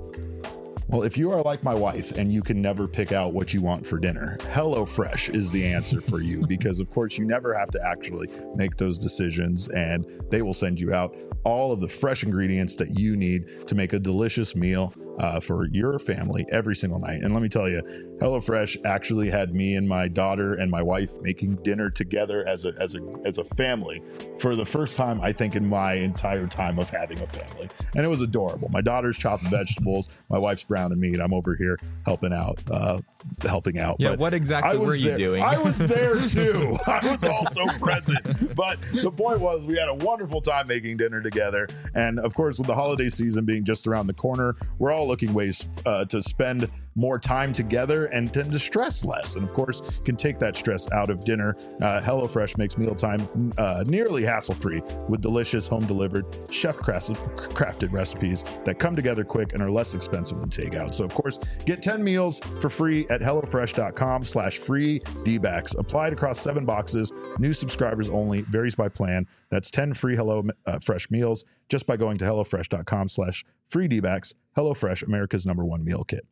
Well, if you are like my wife and you can never pick out what you want for dinner, HelloFresh is the answer for you, because of course you never have to actually make those decisions, and they will send you out all of the fresh ingredients that you need to make a delicious meal for your family every single night. And let me tell you, HelloFresh actually had me and my daughter and my wife making dinner together as a family for the first time, I think, in my entire time of having a family. And it was adorable. My daughter's chopping vegetables, my wife's browning meat. I'm over here helping out. Yeah, but what exactly were you doing? I was there too. I was also present. But the point was, we had a wonderful time making dinner together. And of course, with the holiday season being just around the corner, we're all looking ways to spend more time together and tend to stress less. And of course, can take that stress out of dinner. HelloFresh makes mealtime nearly hassle-free with delicious home-delivered, chef-crafted recipes that come together quick and are less expensive than takeout. So of course, get 10 meals for free at HelloFresh.com/free DBACs. Applied across 7 boxes. New subscribers only. Varies by plan. That's 10 free HelloFresh meals just by going to HelloFresh.com/free DBACs. HelloFresh, America's #1 meal kit.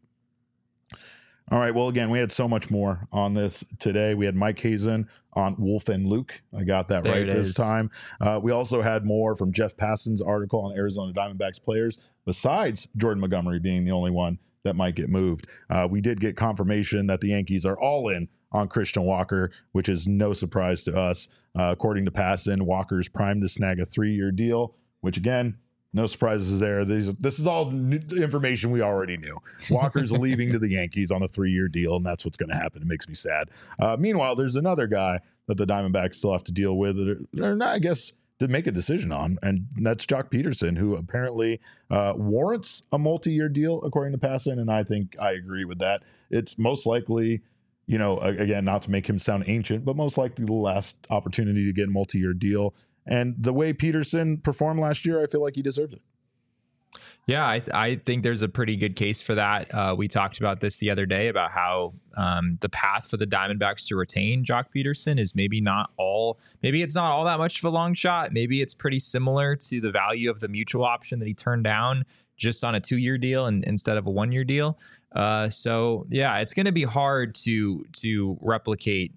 All right. Well, again, we had so much more on this today. We had Mike Hazen on Wolf and Luke. I got that right this time. We also had more from Jeff Passan's article on Arizona Diamondbacks players, besides Jordan Montgomery being the only one that might get moved. We did get confirmation that the Yankees are all in on Christian Walker, which is no surprise to us. According to Passan, Walker's primed to snag a 3-year deal, which again, no surprises there. This is all information we already knew. Walker's leaving to the Yankees on a 3-year deal, and that's what's going to happen. It makes me sad. Meanwhile, there's another guy that the Diamondbacks still have to deal with, or not, I guess, to make a decision on, and that's Joc Pederson, who apparently warrants a multi-year deal, according to Passan, and I think I agree with that. It's most likely, you know, again, not to make him sound ancient, but most likely the last opportunity to get a multi-year deal. And the way Pederson performed last year, I feel like he deserves it. Yeah, I think there's a pretty good case for that. We talked about this the other day about how the path for the Diamondbacks to retain Jock Peterson is maybe it's not all that much of a long shot. Maybe it's pretty similar to the value of the mutual option that he turned down just on a 2-year deal instead of a 1-year deal. So yeah, it's going to be hard to replicate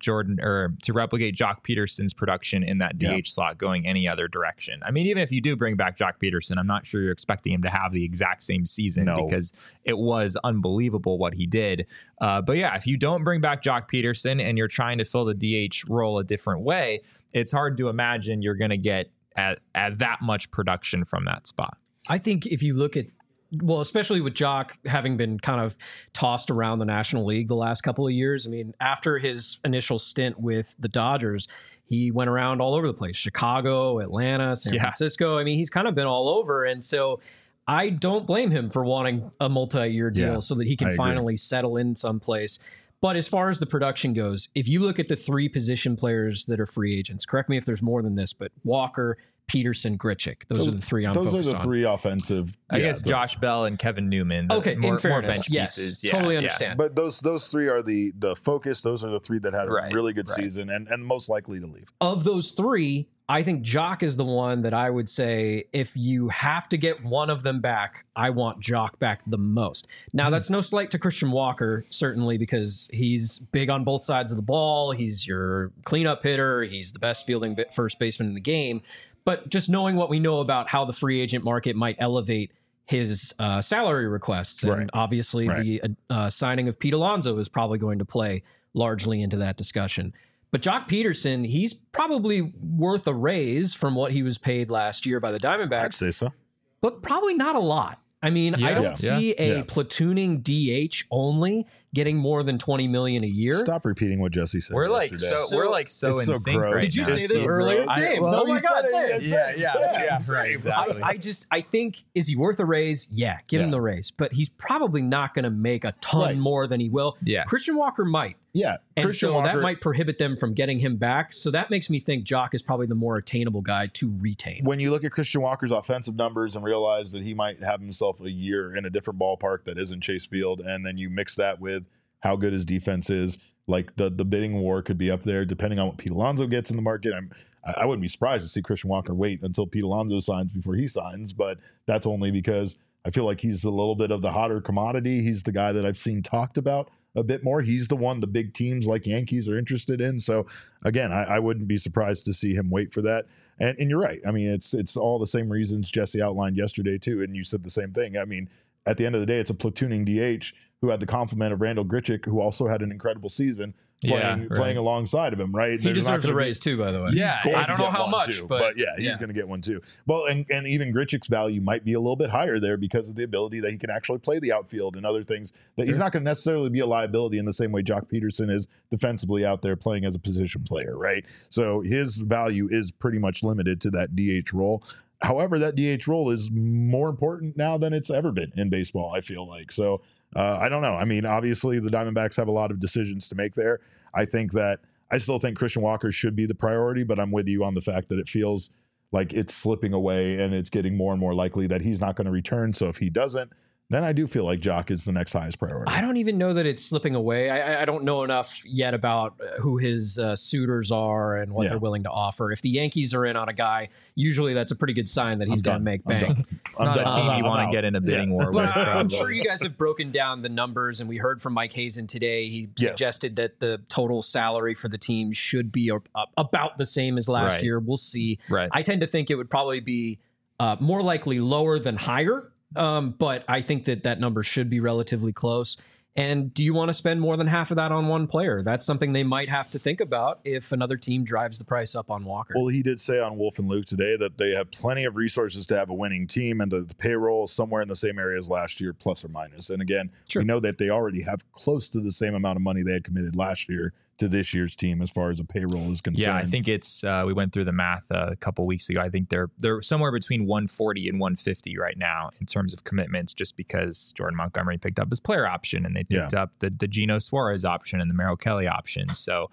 Jock Peterson's production in that DH slot going any other direction. I mean, even if you do bring back Jock Peterson, I'm not sure you're expecting him to have the exact same season because it was unbelievable what he did. But yeah, if you don't bring back Jock Peterson and you're trying to fill the DH role a different way, it's hard to imagine you're going to get at that much production from that spot. I think if you look at, well, especially with Jock having been kind of tossed around the National League the last couple of years. I mean, after his initial stint with the Dodgers, he went around all over the place, Chicago, Atlanta, San Francisco. I mean, he's kind of been all over. And so I don't blame him for wanting a multi-year deal so that he can finally settle in someplace. But as far as the production goes, if you look at the 3 position players that are free agents, correct me if there's more than this, but Walker, Peterson, Grichuk. Those are the 3 I'm focused on. Those are the 3 offensive. I guess Josh Bell and Kevin Newman. Okay, in fairness, more bench yes, pieces. Totally understand. But those 3 are the focus. Those are the 3 that had a really good season and most likely to leave. Of those 3, I think Jock is the one that I would say, if you have to get one of them back, I want Jock back the most. Now, that's no slight to Christian Walker, certainly, because he's big on both sides of the ball. He's your cleanup hitter. He's the best fielding first baseman in the game. But just knowing what we know about how the free agent market might elevate his salary requests, and obviously the signing of Pete Alonso is probably going to play largely into that discussion. But Jock Peterson, he's probably worth a raise from what he was paid last year by the Diamondbacks. I'd say so. But probably not a lot. I mean, I don't see a platooning DH only getting more than $20 million a year. Stop repeating what Jesse said. We're like yesterday. so in sync gross. right Did you now. say this earlier? Same. Oh my God, same. Right, exactly. I think, is he worth a raise? Yeah, give him the raise. But he's probably not going to make a ton more than he will. Yeah. Christian Walker might. Yeah. And so that might prohibit them from getting him back. So that makes me think Jock is probably the more attainable guy to retain. When you look at Christian Walker's offensive numbers and realize that he might have himself a year in a different ballpark that isn't Chase Field, and then you mix that with how good his defense is, like the bidding war could be up there depending on what Pete Alonso gets in the market. I wouldn't be surprised to see Christian Walker wait until Pete Alonso signs before he signs, but that's only because I feel like he's a little bit of the hotter commodity. He's the guy that I've seen talked about a bit more. He's the one the big teams like Yankees are interested in. So again, I wouldn't be surprised to see him wait for that. And you're right. I mean, it's all the same reasons Jesse outlined yesterday too. And you said the same thing. I mean, at the end of the day, it's a platooning DH who had the complement of Randall Grichuk, who also had an incredible season playing alongside of him, right? He deserves a raise too, by the way. Yeah, I don't know how much, but he's going to get one too. Well, and even Grichuk's value might be a little bit higher there because of the ability that he can actually play the outfield and other things that he's not going to necessarily be a liability in the same way Jock Peterson is defensively out there playing as a position player, right? So his value is pretty much limited to that DH role. However, that DH role is more important now than it's ever been in baseball, I feel like. So I don't know. I mean, obviously the Diamondbacks have a lot of decisions to make there. I still think Christian Walker should be the priority, but I'm with you on the fact that it feels like it's slipping away and it's getting more and more likely that he's not going to return. So if he doesn't, then I do feel like Jock is the next highest priority. I don't even know that it's slipping away. I don't know enough yet about who his suitors are and what they're willing to offer. If the Yankees are in on a guy, usually that's a pretty good sign that he's going to make bank. It's not a team you want to get in a bidding war with. But I'm sure you guys have broken down the numbers, and we heard from Mike Hazen today. He suggested that the total salary for the team should be about the same as last year. We'll see. Right. I tend to think it would probably be more likely lower than higher. But I think that number should be relatively close. And do you want to spend more than half of that on one player? That's something they might have to think about if another team drives the price up on Walker. Well, he did say on Wolf and Luke today that they have plenty of resources to have a winning team, and the payroll is somewhere in the same area as last year, plus or minus. And again, we know that they already have close to the same amount of money they had committed last year to this year's team as far as a payroll is concerned. Yeah, I think it's we went through the math a couple weeks ago. I think they're somewhere between 140 and 150 right now in terms of commitments, just because Jordan Montgomery picked up his player option and they picked up the Gino Suarez option and the Merrill Kelly option. So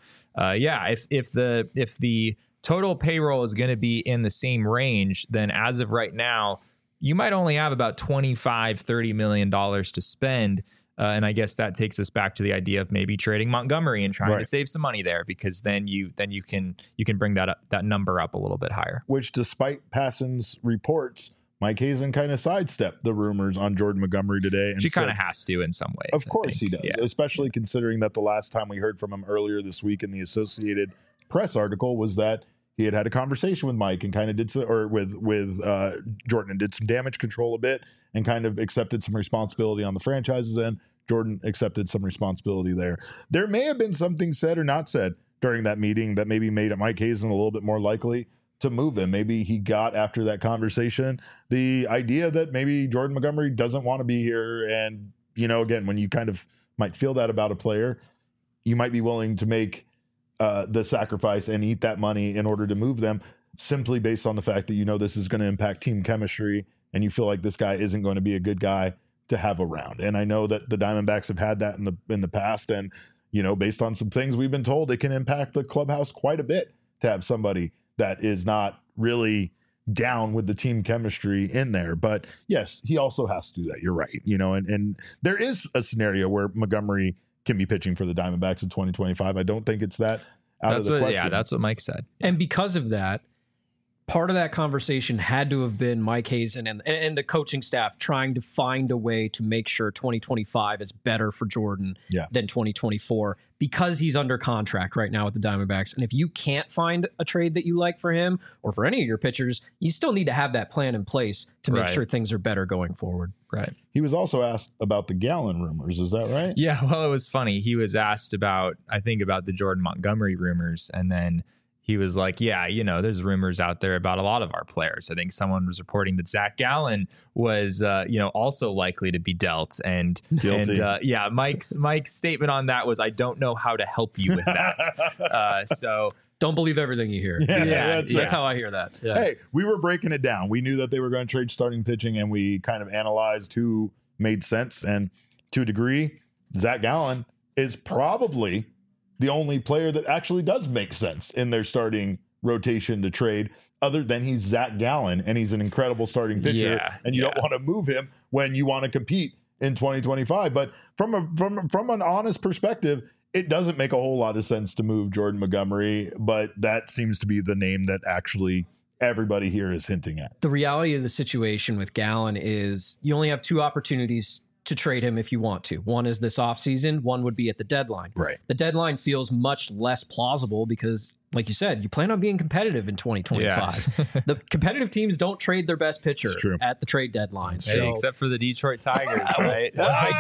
if the total payroll is going to be in the same range, then as of right now, you might only have about $25-30 million to spend. And I guess that takes us back to the idea of maybe trading Montgomery and trying to save some money there, because then you can bring that number up a little bit higher. Which, despite Passan's reports, Mike Hazen kind of sidestepped the rumors on Jordan Montgomery today. And she kind of has to in some ways. Of course he does, especially considering that the last time we heard from him earlier this week in the Associated Press article was that he had a conversation with Mike and kind of did some, or with Jordan, and did some damage control a bit and kind of accepted some responsibility on the franchise's end. Jordan accepted some responsibility there. There may have been something said or not said during that meeting that maybe made Mike Hazen a little bit more likely to move him. Maybe he got, after that conversation, the idea that maybe Jordan Montgomery doesn't want to be here. And, again, when you kind of might feel that about a player, you might be willing to make the sacrifice and eat that money in order to move them, simply based on the fact that this is going to impact team chemistry and you feel like this guy isn't going to be a good guy to have around. And I know that the Diamondbacks have had that in the past, and based on some things we've been told, it can impact the clubhouse quite a bit to have somebody that is not really down with the team chemistry in there. But yes, he also has to do that. You're right. And there is a scenario where Montgomery can be pitching for the Diamondbacks in 2025. I don't think it's that out of the question. Yeah, that's what Mike said. And because of that, part of that conversation had to have been Mike Hazen and the coaching staff trying to find a way to make sure 2025 is better for Jordan than 2024, because he's under contract right now with the Diamondbacks. And if you can't find a trade that you like for him or for any of your pitchers, you still need to have that plan in place to make sure things are better going forward. Right. He was also asked about the Gallen rumors. Is that right? Yeah. Well, it was funny. He was asked about the Jordan Montgomery rumors, and then he was like, yeah, there's rumors out there about a lot of our players. I think someone was reporting that Zach Gallen was, also likely to be dealt. And guilty. And Mike's statement on that was, I don't know how to help you with that. So don't believe everything you hear. That's how I hear that. Yeah. Hey, we were breaking it down. We knew that they were going to trade starting pitching, and we kind of analyzed who made sense. And to a degree, Zach Gallen is probably the only player that actually does make sense in their starting rotation to trade, other than he's Zach Gallen and he's an incredible starting pitcher, and you don't want to move him when you want to compete in 2025. But from an honest perspective, it doesn't make a whole lot of sense to move Jordan Montgomery, but that seems to be the name that actually everybody here is hinting at. The reality of the situation with Gallen is you only have two opportunities to trade him if you want to. One is this offseason, one would be at the deadline. Right. The deadline feels much less plausible because, like you said, you plan on being competitive in 2025. Yeah. The competitive teams don't trade their best pitcher at the trade deadline. Hey, except for the Detroit Tigers, right?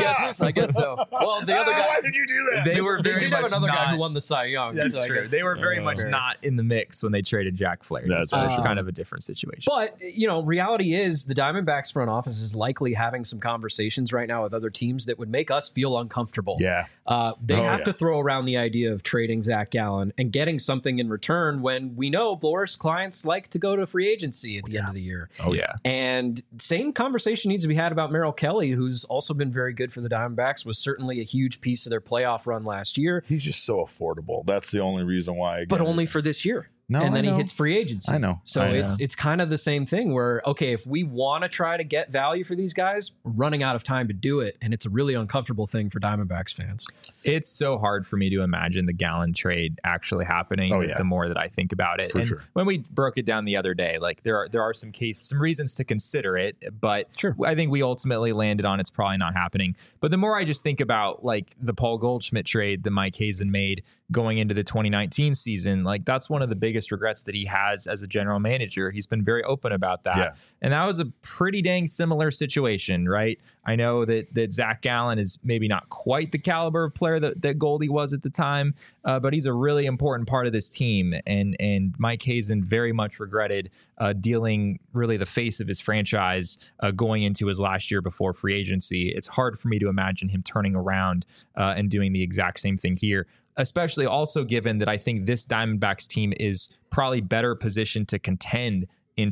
I guess so. Well, the other guy. Why did you do that? They were very did much have another not, guy who won the Cy Young. That's so true. They were very much not in the mix when they traded Jack Flaherty. It's kind of a different situation. But, reality is the Diamondbacks front office is likely having some conversations right now with other teams that would make us feel uncomfortable. Yeah. They have to throw around the idea of trading Zach Gallen and getting something in return when we know Boras clients like to go to free agency at the end of the year. Oh, yeah. And same conversation needs to be had about Merrill Kelly, who's also been very good for the Diamondbacks, was certainly a huge piece of their playoff run last year. He's just so affordable. That's the only reason why. But only for this year. No, and then he hits free agency. I know. So it's kind of the same thing where, okay, if we want to try to get value for these guys, we're running out of time to do it. And it's a really uncomfortable thing for Diamondbacks fans. It's so hard for me to imagine the Gallen trade actually happening the more that I think about it. When we broke it down the other day, like there are some reasons to consider it, but I think we ultimately landed on it's probably not happening. But the more I just think about like the Paul Goldschmidt trade that Mike Hazen made going into the 2019 season, like that's one of the biggest regrets that he has as a general manager. He's been very open about that. Yeah. And that was a pretty dang similar situation, right? I know that Zach Gallen is maybe not quite the caliber of player that Goldie was at the time, but he's a really important part of this team. And Mike Hazen very much regretted dealing really the face of his franchise going into his last year before free agency. It's hard for me to imagine him turning around and doing the exact same thing here, especially also given that I think this Diamondbacks team is probably better positioned to contend in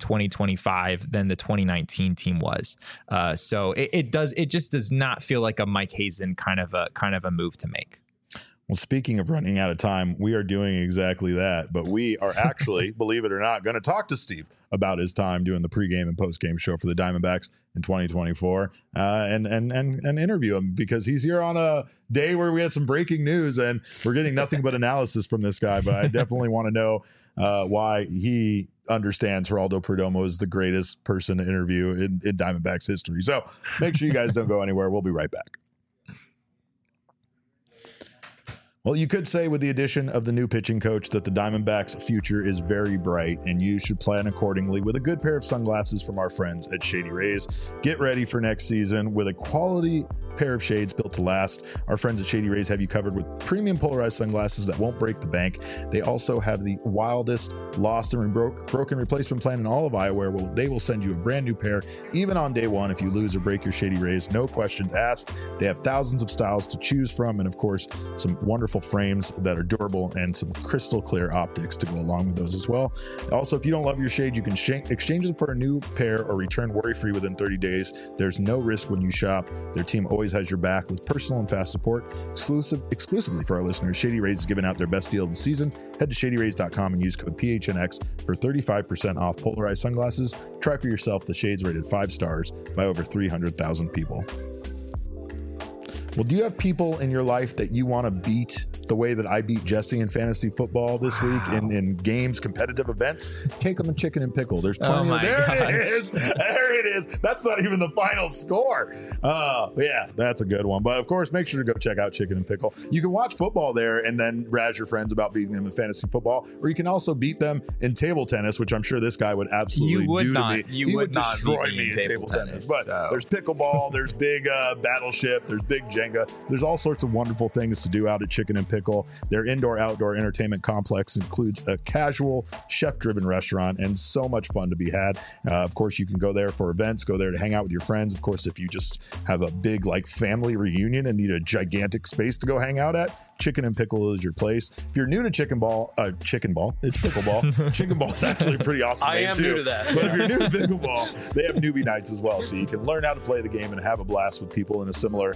2025 than the 2019 team was. So it just does not feel like a Mike Hazen kind of a move to make. Well, speaking of running out of time, we are doing exactly that. But we are actually, believe it or not, going to talk to Steve about his time doing the pregame and postgame show for the Diamondbacks in 2024 and interview him, because he's here on a day where we had some breaking news and we're getting nothing but analysis from this guy. But I definitely want to know why he understands Geraldo Perdomo is the greatest person to interview in Diamondbacks history. So make sure you guys don't go anywhere. We'll be right back. Well, you could say with the addition of the new pitching coach that the Diamondbacks' future is very bright, and you should plan accordingly with a good pair of sunglasses from our friends at Shady Rays. Get ready for next season with a quality pair of shades built to last. Our friends at Shady Rays have you covered with premium polarized sunglasses that won't break the bank. They also have the wildest lost and broken replacement plan in all of eyewear. Well, they will send you a brand new pair even on day one if you lose or break your Shady Rays. No questions asked. They have thousands of styles to choose from, and of course, some wonderful frames that are durable and some crystal clear optics to go along with those as well. Also, if you don't love your shade, you can exchange them for a new pair or return worry-free within 30 days. There's no risk when you shop. Their team always has your back with personal and fast support. Exclusively for our listeners, Shady Rays is giving out their best deal of the season. Head to shadyrays.com and use code PHNX for 35% off polarized sunglasses. Try for yourself the shades rated 5 stars by over 300,000 people. Well, do you have people in your life that you want to beat the way that I beat Jesse in fantasy football this week in games, competitive events? Take them a chicken and pickle. There's plenty of there. It is. There it is. That's not even the final score. Yeah, that's a good one. But of course, make sure to go check out Chicken and Pickle. You can watch football there and then razz your friends about beating them in fantasy football, or you can also beat them in table tennis, which I'm sure this guy would absolutely do to me. He would not destroy me in table tennis. But there's pickleball, there's big battleship, there's big Jenga. There's all sorts of wonderful things to do out at Chicken and Pickle. Their indoor-outdoor entertainment complex includes a casual, chef-driven restaurant and so much fun to be had. Of course, you can go there for events, go there to hang out with your friends. Of course, if you just have a big family reunion and need a gigantic space to go hang out at, Chicken and Pickle is your place. If you're new to chicken ball, it's pickleball. Chicken ball is actually a pretty awesome name too. New to that. But if you're new to pickleball, they have newbie nights as well, so you can learn how to play the game and have a blast with people in a similar,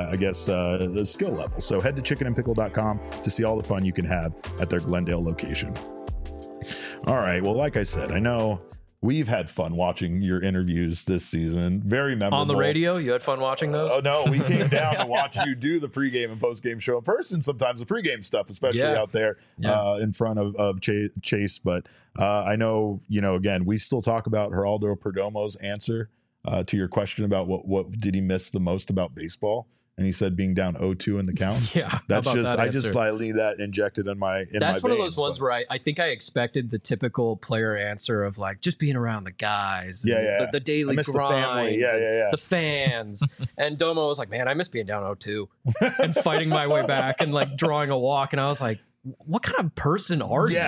skill level. So head to chickenandpickle.com to see all the fun you can have at their Glendale location. All right. Well, like I said, I know we've had fun watching your interviews this season. Very memorable. On the radio? You had fun watching those? Oh, no. We came down to watch you do the pregame and postgame show in person, sometimes the pregame stuff, especially out there in front of Chase. But I know, again, we still talk about Geraldo Perdomo's answer to your question about what did he miss the most about baseball. And he said being down 0-2 in the count. Yeah, that's just I just slightly that injected in my. That's one veins, of those ones where I think I expected the typical player answer of just being around the guys, the daily grind, the family, the fans. And Domo was like, "Man, I miss being down 0-2 and fighting my way back and drawing a walk." And I was like, what kind of person are you?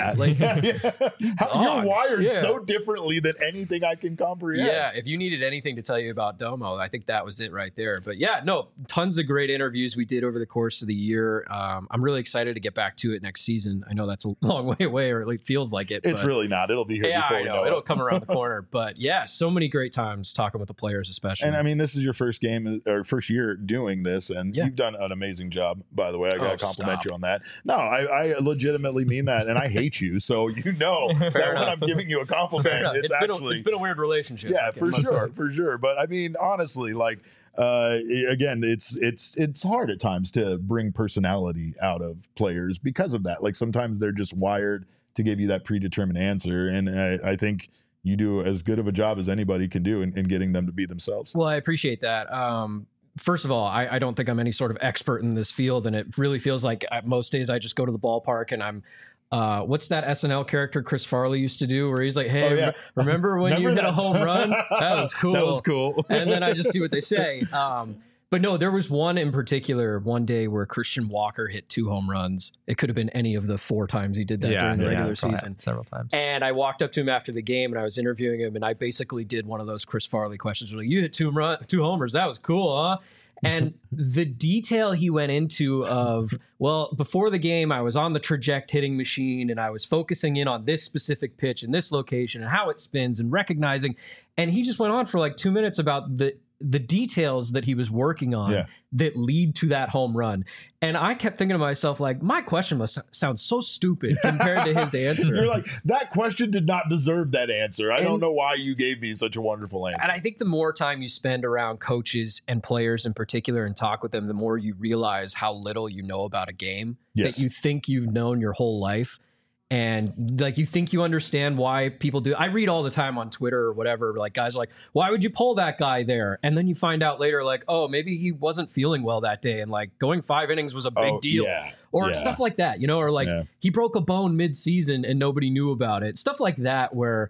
You're wired so differently than anything I can comprehend. Yeah, if you needed anything to tell you about Domo, I think that was it right there. But tons of great interviews we did over the course of the year. I'm really excited to get back to it next season. I know that's a long way away, or at least feels like it. It's really not. It'll be here before we know it. It'll come around the corner. But so many great times talking with the players, especially. And I mean, this is your first game or first year doing this, and you've done an amazing job, by the way. I got to compliment you on that. No, I legitimately mean that, and I hate you, so that when I'm giving you a compliment, it's been a weird relationship. Yeah, for sure. But I mean, honestly, again, it's hard at times to bring personality out of players because of that. Sometimes they're just wired to give you that predetermined answer, and I think you do as good of a job as anybody can do in getting them to be themselves. Well, I appreciate that. First of all, I don't think I'm any sort of expert in this field, and it really feels like most days I just go to the ballpark and I'm what's that SNL character Chris Farley used to do where he's like, hey, remember when you hit a home run? That was cool. That was cool. And then I just see what they say. But no, there was one in particular one day where Christian Walker hit 2 home runs. It could have been any of the 4 times he did that during the regular season. Several times. And I walked up to him after the game and I was interviewing him, and I basically did one of those Chris Farley questions. You hit 2 homers. That was cool, huh? And the detail he went into of, before the game, I was on the traject hitting machine and I was focusing in on this specific pitch in this location and how it spins and recognizing. And he just went on for 2 minutes about the details that he was working on that lead to that home run. And I kept thinking to myself, like, my question must sound so stupid compared to his answer. You're like, that question did not deserve that answer. I don't know why you gave me such a wonderful answer. And I think the more time you spend around coaches and players in particular and talk with them, the more you realize how little you know about a game that you think you've known your whole life. And like, you think you understand why people do. I read all the time on Twitter or whatever, like guys are like, why would you pull that guy there? And then you find out later, like, oh, maybe he wasn't feeling well that day. And like going 5 innings was a big deal or stuff like that, you know, or like he broke a bone mid-season and nobody knew about it. Stuff like that, where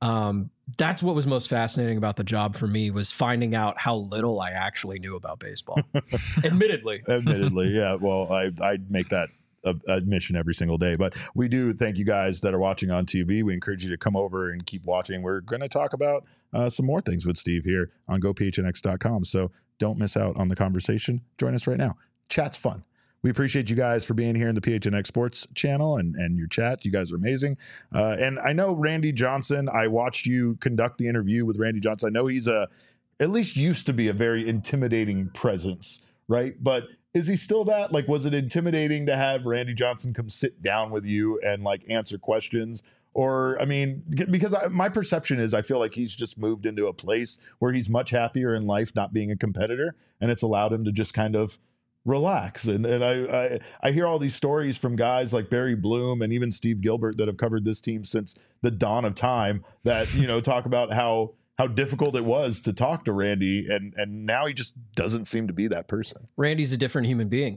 that's what was most fascinating about the job for me, was finding out how little I actually knew about baseball. Admittedly. Yeah. Well, I make that admission every single day, but we do thank you guys that are watching on TV. We encourage you to come over and keep watching. We're going to talk about some more things with Steve here on gophnx.com. So don't miss out on the conversation. Join us right now. Chat's fun. We appreciate you guys for being here in the PHNX Sports channel and your chat. You guys are amazing. And I know Randy Johnson, I watched you conduct the interview with Randy Johnson. I know he's at least used to be a very intimidating presence, right? But is he still that? Like, was it intimidating to have Randy Johnson come sit down with you and like answer questions? Or, I mean, because my perception is I feel like he's just moved into a place where he's much happier in life not being a competitor, and it's allowed him to just kind of relax. And I hear all these stories from guys like Barry Bloom and even Steve Gilbert that have covered this team since the dawn of time that, you know, talk about how difficult it was to talk to Randy, and now he just doesn't seem to be that person. Randy's a different human being.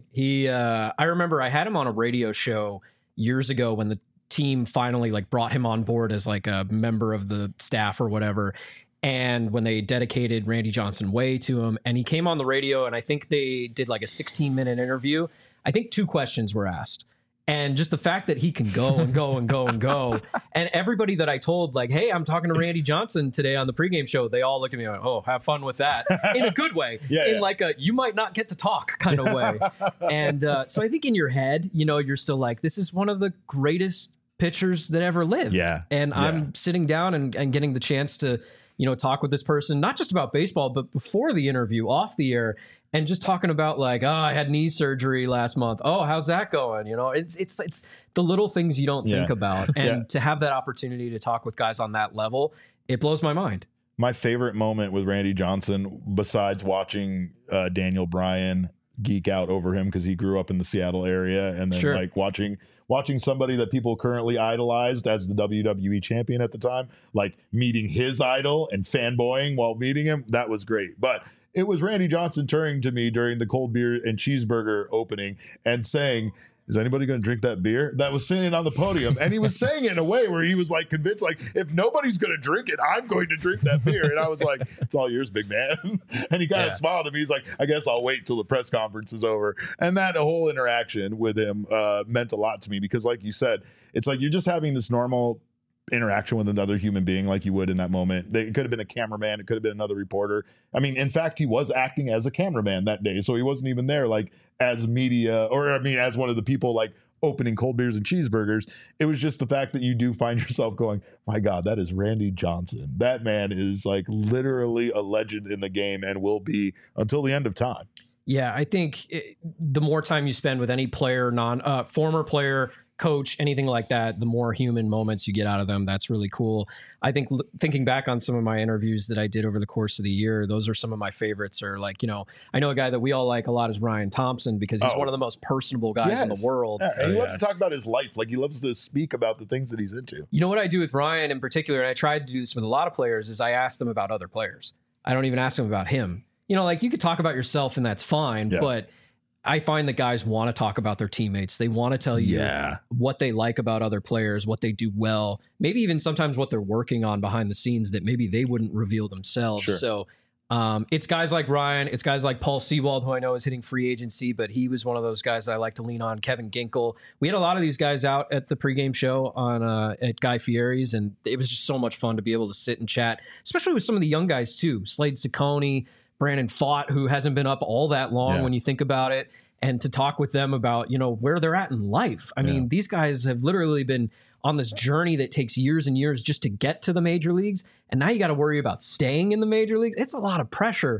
I remember I had him on a radio show years ago when the team finally like brought him on board as like a member of the staff or whatever. And when they dedicated Randy Johnson Way to him, and he came on the radio, and I think they did like a 16-minute interview. I think 2 questions were asked. And just the fact that he can go and go and go and go. And everybody that I told, like, hey, I'm talking to Randy Johnson today on the pregame show, they all look at me like, oh, have fun with that. In a good way. Like a, you might not get to talk kind of way. And so I think in your head, you know, you're still like, this is one of the greatest pitchers that ever lived. And I'm sitting down and getting the chance to, you know, talk with this person, not just about baseball, but before the interview, off the air, and just talking about like, oh, I had knee surgery last month. Oh, how's that going? You know, it's the little things you don't think about. And to have that opportunity to talk with guys on that level, it blows my mind. My favorite moment with Randy Johnson, besides watching Daniel Bryan geek out over him because he grew up in the Seattle area, and then like watching somebody that people currently idolized as the WWE champion at the time, like meeting his idol and fanboying while meeting him, that was great. But it was Randy Johnson turning to me during the cold beer and cheeseburger opening and saying, is anybody going to drink that beer? That was sitting on the podium. And he was saying it in a way where he was like convinced, like, if nobody's going to drink it, I'm going to drink that beer. And I was like, it's all yours, big man. And he kind of smiled at me. He's like, I guess I'll wait till the press conference is over. And that whole interaction with him meant a lot to me because, like you said, it's like you're just having this normal interaction with another human being like you would in that moment. It could have been a cameraman. It could have been another reporter. I mean, in fact, he was acting as a cameraman that day. So he wasn't even there like as media, or I mean, as one of the people like opening cold beers and cheeseburgers. It was just the fact that you do find yourself going, my God, that is Randy Johnson. That man is like literally a legend in the game and will be until the end of time. Yeah, I think the more time you spend with any player, former player, coach, anything like that, the more human moments you get out of them. That's really cool. I think thinking back on some of my interviews that I did over the course of the year, those are some of my favorites. Or like, you know, I know a guy that we all like a lot is Ryan Thompson because he's one of the most personable guys in the world. Yeah, and he loves to talk about his life. Like he loves to speak about the things that he's into. You know what I do with Ryan in particular, and I tried to do this with a lot of players, is I ask them about other players. I don't even ask them about him. You know, like you could talk about yourself and that's fine, but I find that guys want to talk about their teammates. They want to tell you what they like about other players, what they do well, maybe even sometimes what they're working on behind the scenes that maybe they wouldn't reveal themselves. So it's guys like Ryan, it's guys like Paul Sewald, who I know is hitting free agency, but he was one of those guys that I like to lean on. Kevin Ginkel. We had a lot of these guys out at the pregame show on at Guy Fieri's, and it was just so much fun to be able to sit and chat, especially with some of the young guys too. Slade Ciccone, Brandon Pfaadt, who hasn't been up all that long when you think about it, and to talk with them about, you know, where they're at in life. I mean, these guys have literally been on this journey that takes years and years just to get to the major leagues. And now you got to worry about staying in the major leagues. It's a lot of pressure.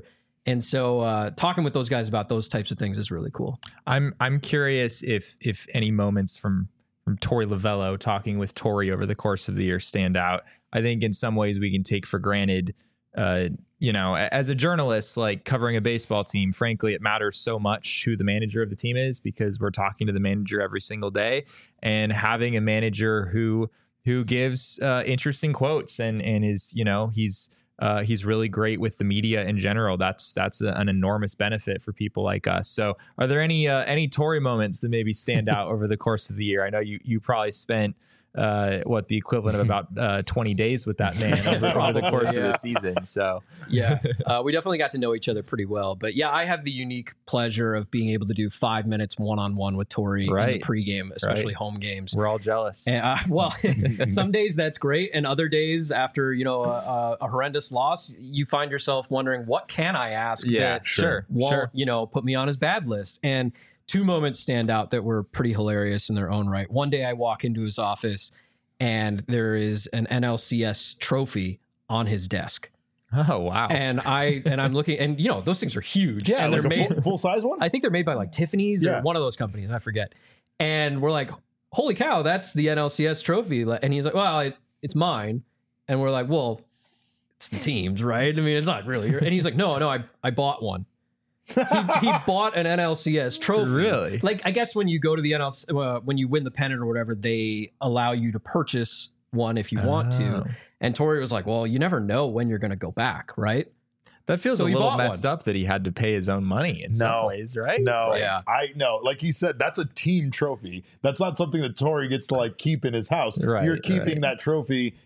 And so talking with those guys about those types of things is really cool. I'm curious if any moments from Torey Lovullo talking with Torey over the course of the year stand out. I think in some ways we can take for granted, as a journalist, like covering a baseball team, frankly, it matters so much who the manager of the team is because we're talking to the manager every single day, and having a manager who gives interesting quotes and is, he's really great with the media in general. That's an enormous benefit for people like us. So are there any Torey moments that maybe stand out over the course of the year? I know you probably spent the equivalent of about 20 days with that man over the course of the season. So yeah, we definitely got to know each other pretty well. But yeah, I have the unique pleasure of being able to do 5 minutes one-on-one with Torey in the pregame, especially home games. We're all jealous. And, some days that's great, and other days after a horrendous loss, you find yourself wondering, what can I ask? Yeah, that won't put me on his bad list. And 2 moments stand out that were pretty hilarious in their own right. One day I walk into his office and there is an NLCS trophy on his desk. Oh, wow. And I'm looking, and those things are huge. Yeah, and like they're made full size one. I think they're made by like Tiffany's or one of those companies. I forget. And we're like, holy cow, that's the NLCS trophy. And he's like, well, it's mine. And we're like, well, it's the team's, right? I mean, it's not really. And he's like, no, I bought one. he bought an NLCS trophy. Really? Like, I guess when you go to the NLCS, when you win the pennant or whatever, they allow you to purchase one if you want to. And Torey was like, well, you never know when you're going to go back, right? That feels a little messed up that he had to pay his own money in some ways, right? No, yeah. I know. Like he said, that's a team trophy. That's not something that Torey gets to like keep in his house. Right, You're keeping that trophy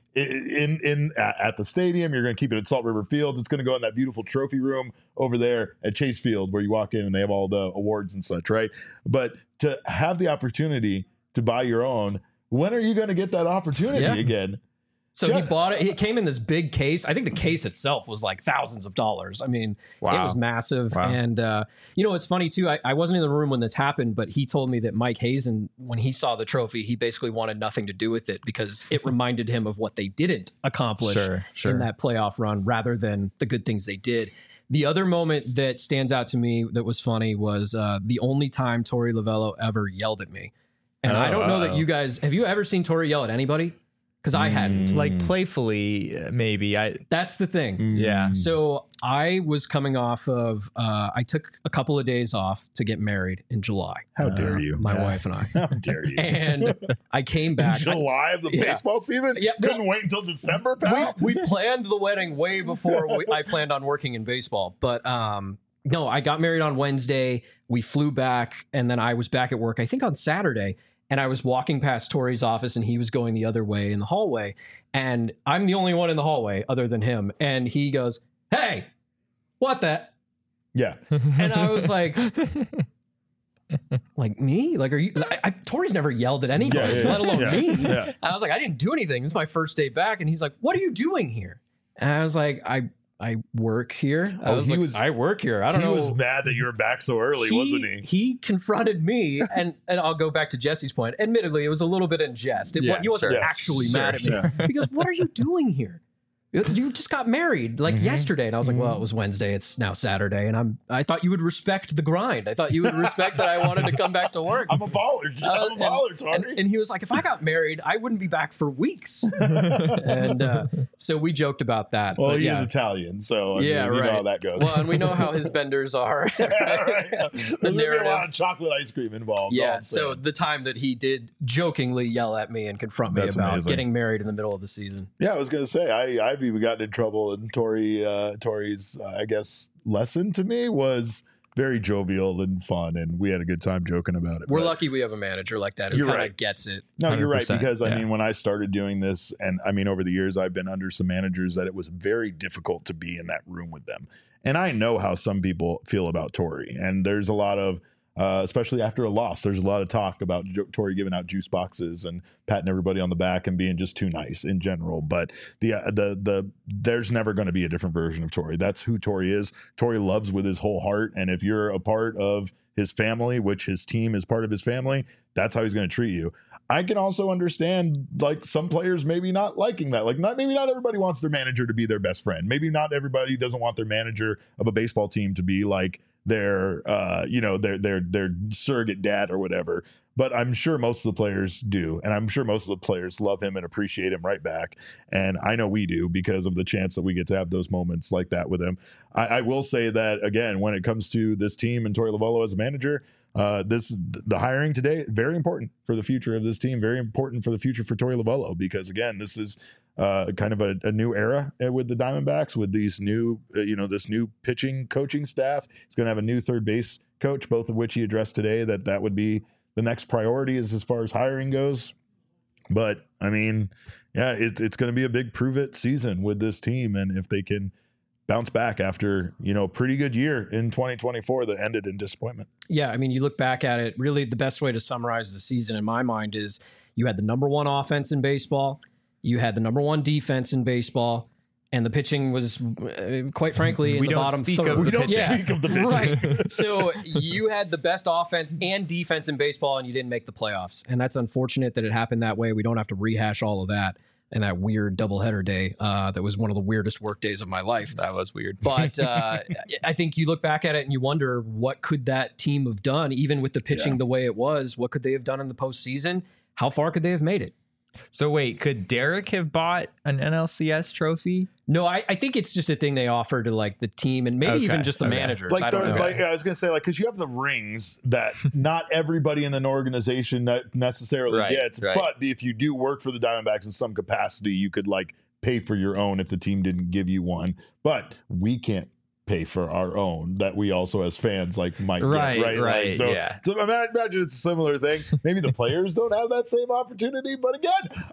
at the stadium. You're going to keep it at Salt River Fields. It's going to go in that beautiful trophy room over there at Chase Field where you walk in and they have all the awards and such, right? But to have the opportunity to buy your own, when are you going to get that opportunity again? So he bought it. It came in this big case. I think the case itself was like thousands of dollars. I mean, It was massive. Wow. And, it's funny too. I wasn't in the room when this happened, but he told me that Mike Hazen, when he saw the trophy, he basically wanted nothing to do with it because it reminded him of what they didn't accomplish in that playoff run rather than the good things they did. The other moment that stands out to me that was funny was the only time Torey Lovullo ever yelled at me. And I don't know that you guys, have you ever seen Torey yell at anybody? Because I hadn't. Like playfully, maybe. That's the thing. Yeah. So I was coming off of, I took a couple of days off to get married in July. How dare you? My wife and I. How dare you? And I came back. July of the baseball season? Yeah. Couldn't wait until December, pal? We planned the wedding way before I planned on working in baseball. But no, I got married on Wednesday. We flew back, and then I was back at work, I think on Saturday. And I was walking past Torey's office and he was going the other way in the hallway. And I'm the only one in the hallway other than him. And he goes, hey, what the? Yeah. And I was like, like me? Like, are you? Torey's never yelled at anybody, let alone me. Yeah. I was like, I didn't do anything. This is my first day back. And he's like, what are you doing here? And I was like, I work here. I work here. I don't know. He was mad that you were back so early, wasn't he? He confronted me, and I'll go back to Jesse's point. Admittedly, it was a little bit in jest. He wasn't actually mad at me. He goes, what are you doing here? You just got married yesterday. And I was like, well, it was Wednesday. It's now Saturday. And I thought you would respect the grind. I thought you would respect that I wanted to come back to work. I'm a baller. Tony. And he was like, if I got married, I wouldn't be back for weeks. And so we joked about that. Well, he is Italian. So I mean, you know how that goes. Well, and we know how his benders are. There's a lot of chocolate ice cream involved. Yeah. So the time that he did jokingly yell at me and confront me about getting married in the middle of the season. Yeah, I was going to say, I've even gotten in trouble, and Torey's I guess lesson to me was very jovial and fun, and we had a good time joking about it. We're lucky we have a manager like that who kind of gets it. No, you're right, because I mean, when I started doing this, and I mean, over the years I've been under some managers that it was very difficult to be in that room with them, and I know how some people feel about Torey, and there's a lot of especially after a loss. There's a lot of talk about Torrey giving out juice boxes and patting everybody on the back and being just too nice in general. But there's never going to be a different version of Torrey. That's who Torrey is. Torrey loves with his whole heart, and if you're a part of his family, which his team is part of his family, that's how he's going to treat you. I can also understand like some players maybe not liking that. Like maybe not everybody wants their manager to be their best friend. Maybe not everybody doesn't want their manager of a baseball team to be like their surrogate dad or whatever. But I'm sure most of the players do, and I'm sure most of the players love him and appreciate him right back. And I know we do because of the chance that we get to have those moments like that with him. I will say that again, when it comes to this team and Torey Lovullo as a manager, the hiring today, very important for the future of this team, very important for the future for Torey Lovullo, because again, this is kind of a new era with the Diamondbacks with these new, this new pitching coaching staff. He's going to have a new third base coach, both of which he addressed today, that would be the next priority as far as hiring goes. But I mean, yeah, it's going to be a big prove it season with this team. And if they can bounce back after, a pretty good year in 2024 that ended in disappointment. Yeah. I mean, you look back at it, really the best way to summarize the season in my mind is you had the number one offense in baseball. You had the number one defense in baseball, and the pitching was, quite frankly, in the bottom third. We don't speak of the pitching. Right. So you had the best offense and defense in baseball, and you didn't make the playoffs. And that's unfortunate that it happened that way. We don't have to rehash all of that and that weird doubleheader day. That was one of the weirdest work days of my life. That was weird. But I think you look back at it and you wonder, what could that team have done, even with the pitching the way it was? What could they have done in the postseason? How far could they have made it? So wait, could Derek have bought an NLCS trophy? No, I think it's just a thing they offer to like the team and maybe even just the managers. Like I don't know. I was going to say, like, because you have the rings that not everybody in an organization necessarily gets. Right. But if you do work for the Diamondbacks in some capacity, you could like pay for your own if the team didn't give you one. But we can't pay for our own that we also as fans like might get, right? Like, so imagine it's a similar thing. Maybe the players don't have that same opportunity, but again,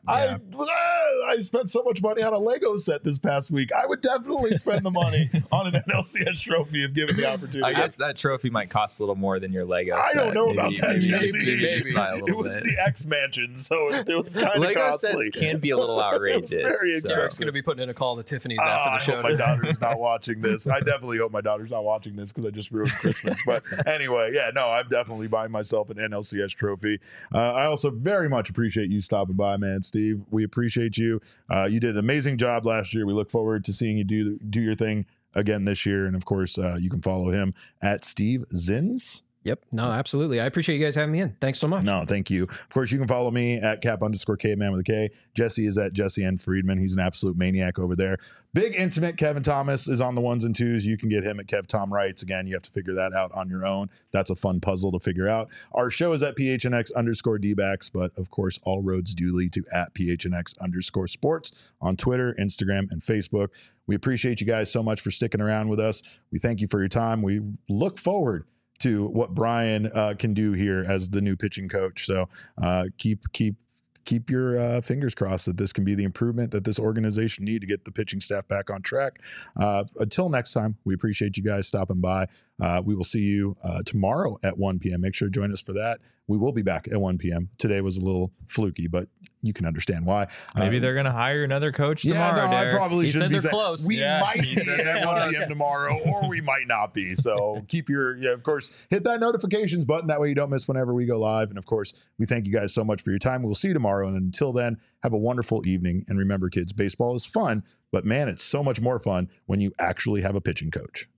I spent so much money on a Lego set this past week. I would definitely spend the money on an NLCS trophy if given the opportunity. I guess that trophy might cost a little more than your Lego set. I don't know about that. Maybe it was the X Mansion, so it was kind of Lego costly. Sets can be a little outrageous. It was very expensive. Derek's going to be putting in a call to Tiffany's after the show. I hope my daughter's not watching this. I definitely hope my daughter's not watching this because I just ruined Christmas. But anyway, I'm definitely buying myself an NLCS trophy. I also very much appreciate you stopping by, man, Steve. We appreciate you. You did an amazing job last year. We look forward to seeing you do your thing again this year. And of course, you can follow him at Steve Zins. Yep. No, absolutely. I appreciate you guys having me in. Thanks so much. No, thank you. Of course, you can follow me at Cap_Caveman with a K. Jesse is at Jesse N. Friedman. He's an absolute maniac over there. Big Intimate Kevin Thomas is on the ones and twos. You can get him at Kev Tom Wrights. Again, you have to figure that out on your own. That's a fun puzzle to figure out. Our show is at PHNX_DBacks, but of course, all roads do lead to at PHNX_sports on Twitter, Instagram, and Facebook. We appreciate you guys so much for sticking around with us. We thank you for your time. We look forward to what Brian can do here as the new pitching coach. So keep your fingers crossed that this can be the improvement that this organization need to get the pitching staff back on track. Until next time, we appreciate you guys stopping by. We will see you tomorrow at 1 p.m. Make sure to join us for that. We will be back at 1 p.m. Today was a little fluky, but you can understand why. Maybe they're going to hire another coach tomorrow. I probably he shouldn't said be they're close. We might be at 1 p.m. tomorrow, or we might not be. So keep of course, hit that notifications button. That way you don't miss whenever we go live. And of course, we thank you guys so much for your time. We'll see you tomorrow. And until then, have a wonderful evening. And remember, kids, baseball is fun, but man, it's so much more fun when you actually have a pitching coach.